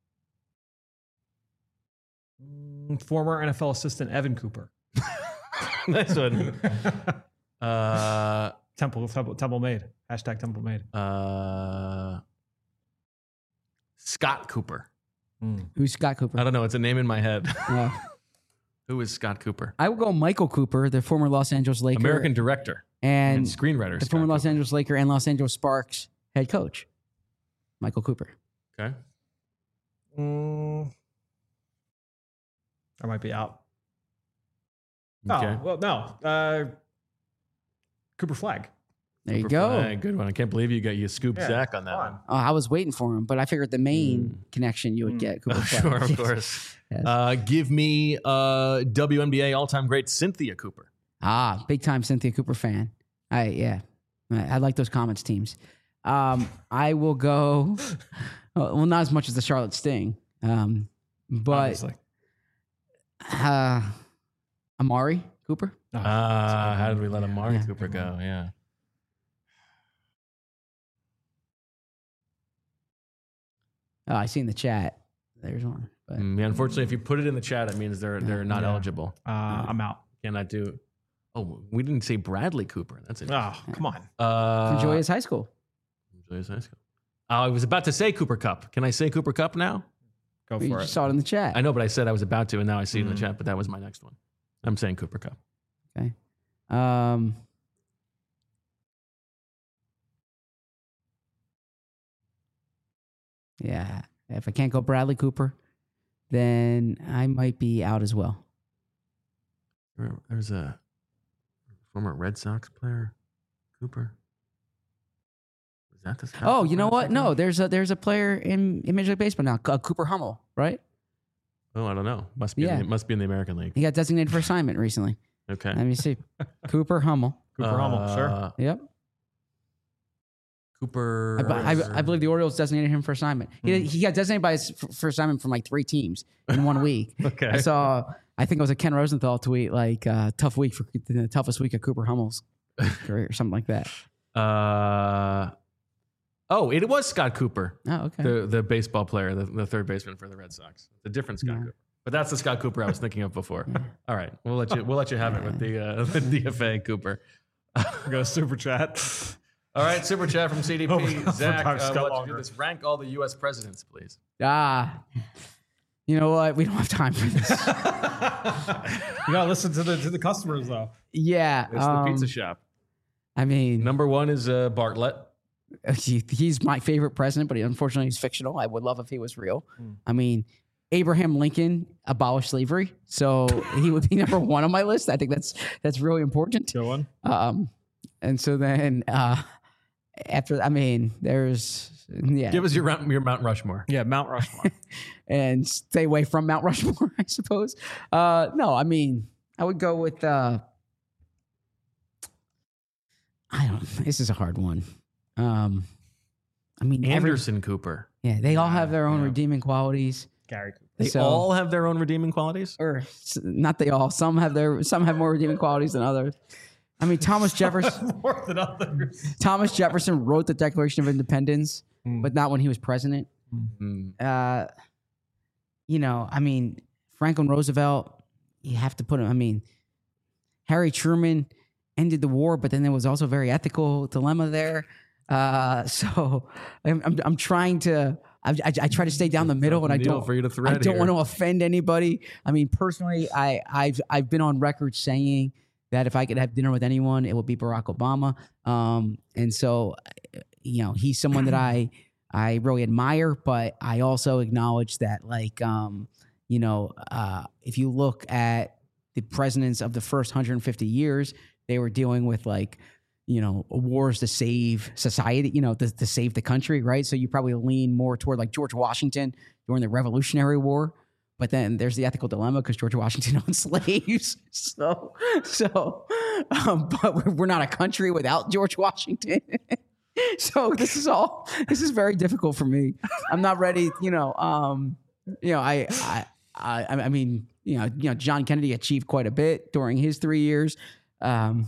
mm, former N F L assistant Evan Cooper. Nice one. Uh, Temple, Temple, Temple made. Hashtag Temple made. uh, Scott Cooper. Mm. Who's Scott Cooper? I don't know. It's a name in my head. Uh, Who is Scott Cooper? I would go Michael Cooper, the former Los Angeles Laker, American director and, and screenwriter. the Scott former Los Cooper. Angeles Laker and Los Angeles Sparks head coach, Michael Cooper. Okay. Mm. I might be out. Okay. Oh, well, no. Uh, Cooper Flag. There you Cooper go. Flag, good one. I can't believe you got you scooped Yeah, Zach on that come one. on. Oh, I was waiting for him, but I figured the main Mm. connection you would Mm. get. Cooper Oh, Flag. sure, of Yes. course. Yes. Uh, give me uh, W N B A all-time great Cynthia Cooper. Ah, big time Cynthia Cooper fan. I yeah, I, I like those Comets teams. Um, I will go. Well, not as much as the Charlotte Sting, um, but Obviously. uh, Amari Cooper. Oh, Ah, how did we let Amari Yeah. Cooper go? Yeah. Oh, I see in the chat. There's one. But Mm, yeah, unfortunately, if you put it in the chat, it means they're they're not Yeah. eligible. uh, I'm out. Cannot do. Oh, we didn't say Bradley Cooper. That's it. Oh, come on. Uh, from Joyous High School. Joyous High School. Uh, I was about to say Cooper Cup. Can I say Cooper Cup now? Go You for just it. saw it in the chat. I know, but I said I was about to, and now I see it in the Mm. chat. But that was my next one. I'm saying Cooper Cup. Um, yeah, if I can't go Bradley Cooper, then I might be out as well. There- There's a former Red Sox player, Cooper. Is that the Oh, you know what? No, there's a there's a player in, in Major League Baseball now, uh, Cooper Hummel, right? Oh, I don't know. Must be. Yeah. In the, must be in the American League. He got designated for assignment recently. Okay. Let me see. Cooper Hummel. Cooper Hummel, sure. Uh, Yep. Cooper. I, be- I, I believe the Orioles designated him for assignment. He, he got designated by his, for, for assignment from like three teams in one week. Okay. I saw, I think it was a Ken Rosenthal tweet, like, uh, tough week for the toughest week of Cooper Hummel's career or something like that. Uh, oh, it was Scott Cooper, Oh, okay. the the baseball player, the, the third baseman for the Red Sox. The different Scott Yeah. Cooper, but that's the Scott Cooper I was thinking of before. All right, we'll let you we'll let you have it with the uh, the D F A Cooper. Go super chat. All right, super chat from C D P. Oh, Zach, sometimes uh, got let's do longer. this. Rank all the U S presidents, please. Ah, you know what? We don't have time for this. You gotta listen to the to the customers though. Yeah. It's um, the pizza shop. I mean, Number one is uh, Bartlett. he, he's my favorite president, but he, unfortunately he's fictional. I would love if he was real. Hmm. I mean, Abraham Lincoln abolished slavery, so he would be number one on my list. I think that's that's really important. Good one. Um, and so then uh, after, I mean, there's yeah, Give us your Mount- your Mount Rushmore. Yeah, Mount Rushmore. and stay away from Mount Rushmore, I suppose. Uh, no, I mean, I would go with. Uh, I don't. This is a hard one. Um, I mean, every, Anderson Cooper. yeah, they all have their own Yeah. redeeming qualities. Gary Cooper. They So- all have their own redeeming qualities. Or s- not they all. Some have their. Some have more redeeming qualities than others. I mean, Thomas Jefferson. More than others. Thomas Jefferson wrote the Declaration of Independence, Hmm. but not when he was president. Hmm. Uh, you know, I mean, Franklin Roosevelt, you have to put him, I mean, Harry Truman ended the war, but then there was also a very ethical dilemma there. Uh, so I'm, I'm, I'm trying to, I, I, I try to stay down the middle, and I Needle don't, for you to I thread don't here. want to offend anybody. I mean, personally, I, I've, I've been on record saying that if I could have dinner with anyone, it would be Barack Obama. Um, and so, you know, he's someone that I, I really admire, but I also acknowledge that, like, um, you know, uh, if you look at the presidents of the first one hundred fifty years, they were dealing with, like, you know, wars to save society, you know, to, to save the country, right? So you probably lean more toward, like, George Washington during the Revolutionary War. But then there's the ethical dilemma because George Washington owned slaves. So, so, um, but we're, we're not a country without George Washington. So this is all, this is very difficult for me. I'm not ready, you know, um, you know, I, I, I, I mean, you know, you know, John Kennedy achieved quite a bit during his three years. Um,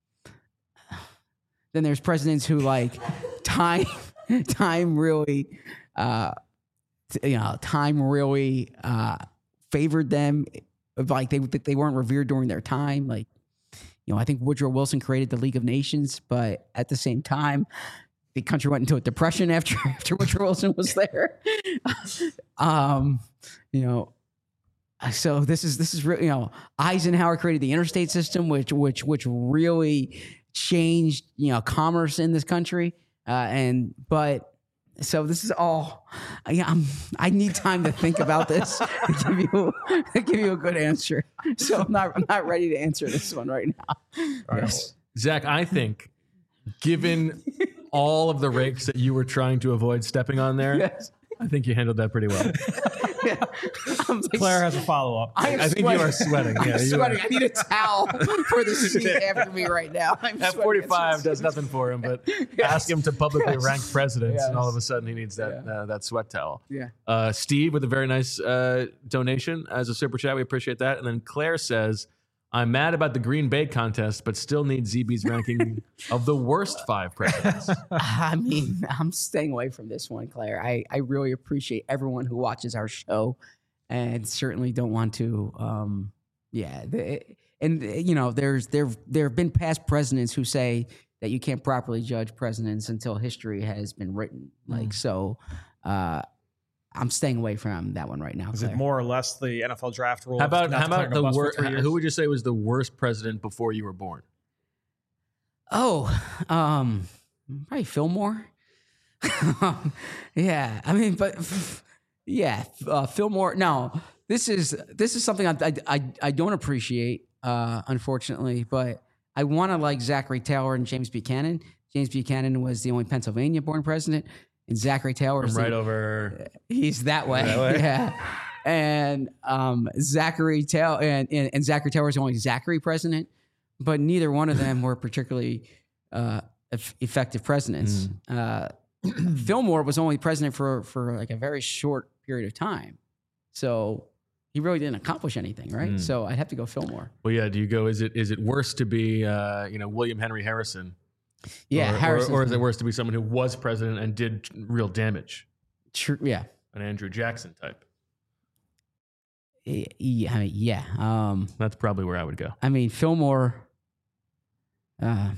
then there's presidents who, like, time, time really, uh, t- you know, time really, uh, favored them. Like they, they weren't revered during their time. Like, you know, I think Woodrow Wilson created the League of Nations, but at the same time, the country went into a depression after after Woodrow Wilson was there. um, you know, so this is this is really, you know, Eisenhower created the interstate system, which which which really changed, you know, commerce in this country. Uh, and but so this is all. I, I'm, I need time to think about this to give you to give you a good answer. So I'm not I'm not ready to answer this one right now. Yes. Zach, I think, given all of the rakes that you were trying to avoid stepping on there, Yes. I think you handled that pretty well. Yeah. I'm like, Claire has a follow up. I, am I think sweating. you are sweating. I'm Yeah, you sweating. are. I need a towel for the seat after me right now. I'm At sweating. forty-five does nothing for him, but ask him to publicly Yes. rank presidents, and all Yes. of a sudden he needs that Yeah. uh, that sweat towel. Yeah. Uh, Steve with a very nice uh, donation as a super chat. We appreciate that. And then Claire says, I'm mad about the Green Bay contest, but still need Z B's ranking of the worst five presidents. I mean, I'm staying away from this one, Claire. I, I really appreciate everyone who watches our show, and certainly don't want to. Um, yeah, the, and you know, there's there there have been past presidents who say that you can't properly judge presidents until history has been written. Like so, uh, I'm staying away from that one right now. Is Claire. it more or less the N F L draft rule? How about Not how declaring about a the bust for worst? three years? Who would you say was the worst president before you were born? Oh, um, probably Fillmore. Yeah, I mean, but yeah, uh, Fillmore. No, this is this is something I I I, I don't appreciate, uh, unfortunately. But I want to like Zachary Taylor and James Buchanan. James Buchanan was the only Pennsylvania-born president, and Zachary Taylor From is right the, over. he's that way. That way? Yeah. And um, Zachary Taylor and, and, and Zachary Taylor was the only Zachary president, but neither one of them were particularly uh, eff- effective presidents. Mm. Uh, Fillmore was only president for for like a very short period of time, so he really didn't accomplish anything, right? Mm. So I'd have to go Fillmore. Well, yeah. Do you go? Is it is it worse to be uh, you know William Henry Harrison? Yeah, or, Harrison. or, or is it worse to be someone who was president and did real damage? True. Yeah. An Andrew Jackson type. Yeah. I mean, yeah. Um, That's probably where I would go. I mean, Fillmore. Uh,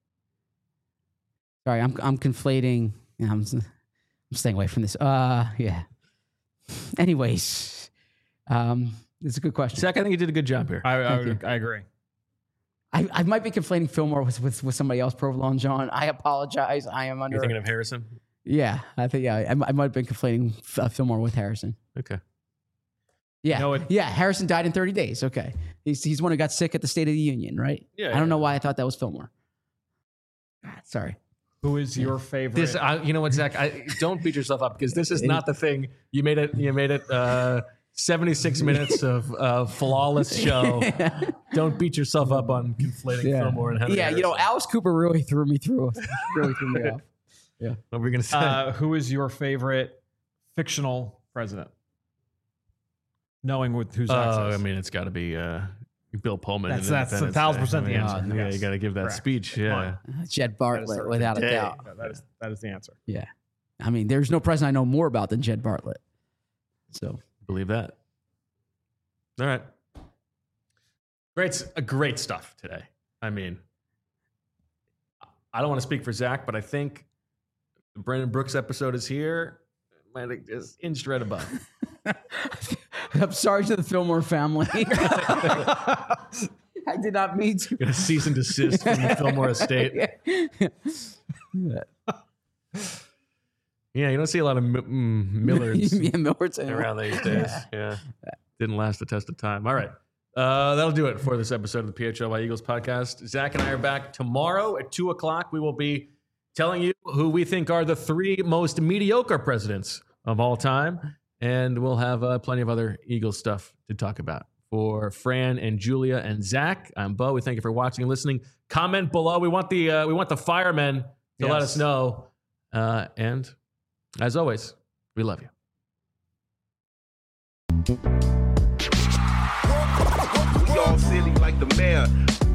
sorry, I'm I'm conflating. I'm I'm staying away from this. Uh, yeah. Anyways, um, it's a good question. Zach, I think you did a good job here. I, I, Thank would, I agree. I, I might be conflating Fillmore with, with, with somebody else, Provolone John. I apologize. I am under. You're thinking of Harrison? Yeah, I think yeah. I, I might have been conflating uh, Fillmore with Harrison. Okay. Yeah, You know what- yeah. Harrison died in thirty days. Okay, he's he's the one who got sick at the State of the Union, right? Yeah, I don't yeah. know why I thought that was Fillmore. God, sorry. Who is your favorite? This, I, you know what, Zach? I, don't beat yourself up because this is not the thing. You made it. You made it. Uh, seventy-six minutes of uh, flawless show. Don't beat yourself up on conflating Yeah. Fillmore and Henry. Yeah, you know, Harrison. Alice Cooper really threw me through. Really threw me off. What were we gonna say? uh, who is your favorite fictional president? Knowing with who's Oh, access. I mean, it's got to be uh, Bill Pullman. That's- in that's a Independence thousand Day. percent the I mean, answer. Yeah, Yes. you got to give that Correct. speech. Yeah. Jed Bartlett, without a day. doubt. Yeah, that is that is the answer. Yeah. I mean, there's no president I know more about than Jed Bartlett. So Believe that. All right. Great, uh, great stuff today. I mean, I don't want to speak for Zach, but I think the Brandon Brooks episode is here. Might have just inched right above. I'm sorry to the Fillmore family. I did not mean to. Got a cease and desist from the Fillmore estate. Yeah. Yeah, you don't see a lot of M- mm, Millers yeah, Millards anymore. around these days. Yeah. Didn't last the test of time. All right. Uh, that'll do it for this episode of the P H L Y Eagles podcast. Zach and I are back tomorrow at two o'clock. We will be telling you who we think are the three most mediocre presidents of all time. And we'll have uh, plenty of other Eagles stuff to talk about. For Fran and Julia and Zach, I'm Bo. We thank you for watching and listening. Comment below. We want the uh, we want the firemen to let Yes. us know. Uh, and as always, we love you. We all silly like the mayor.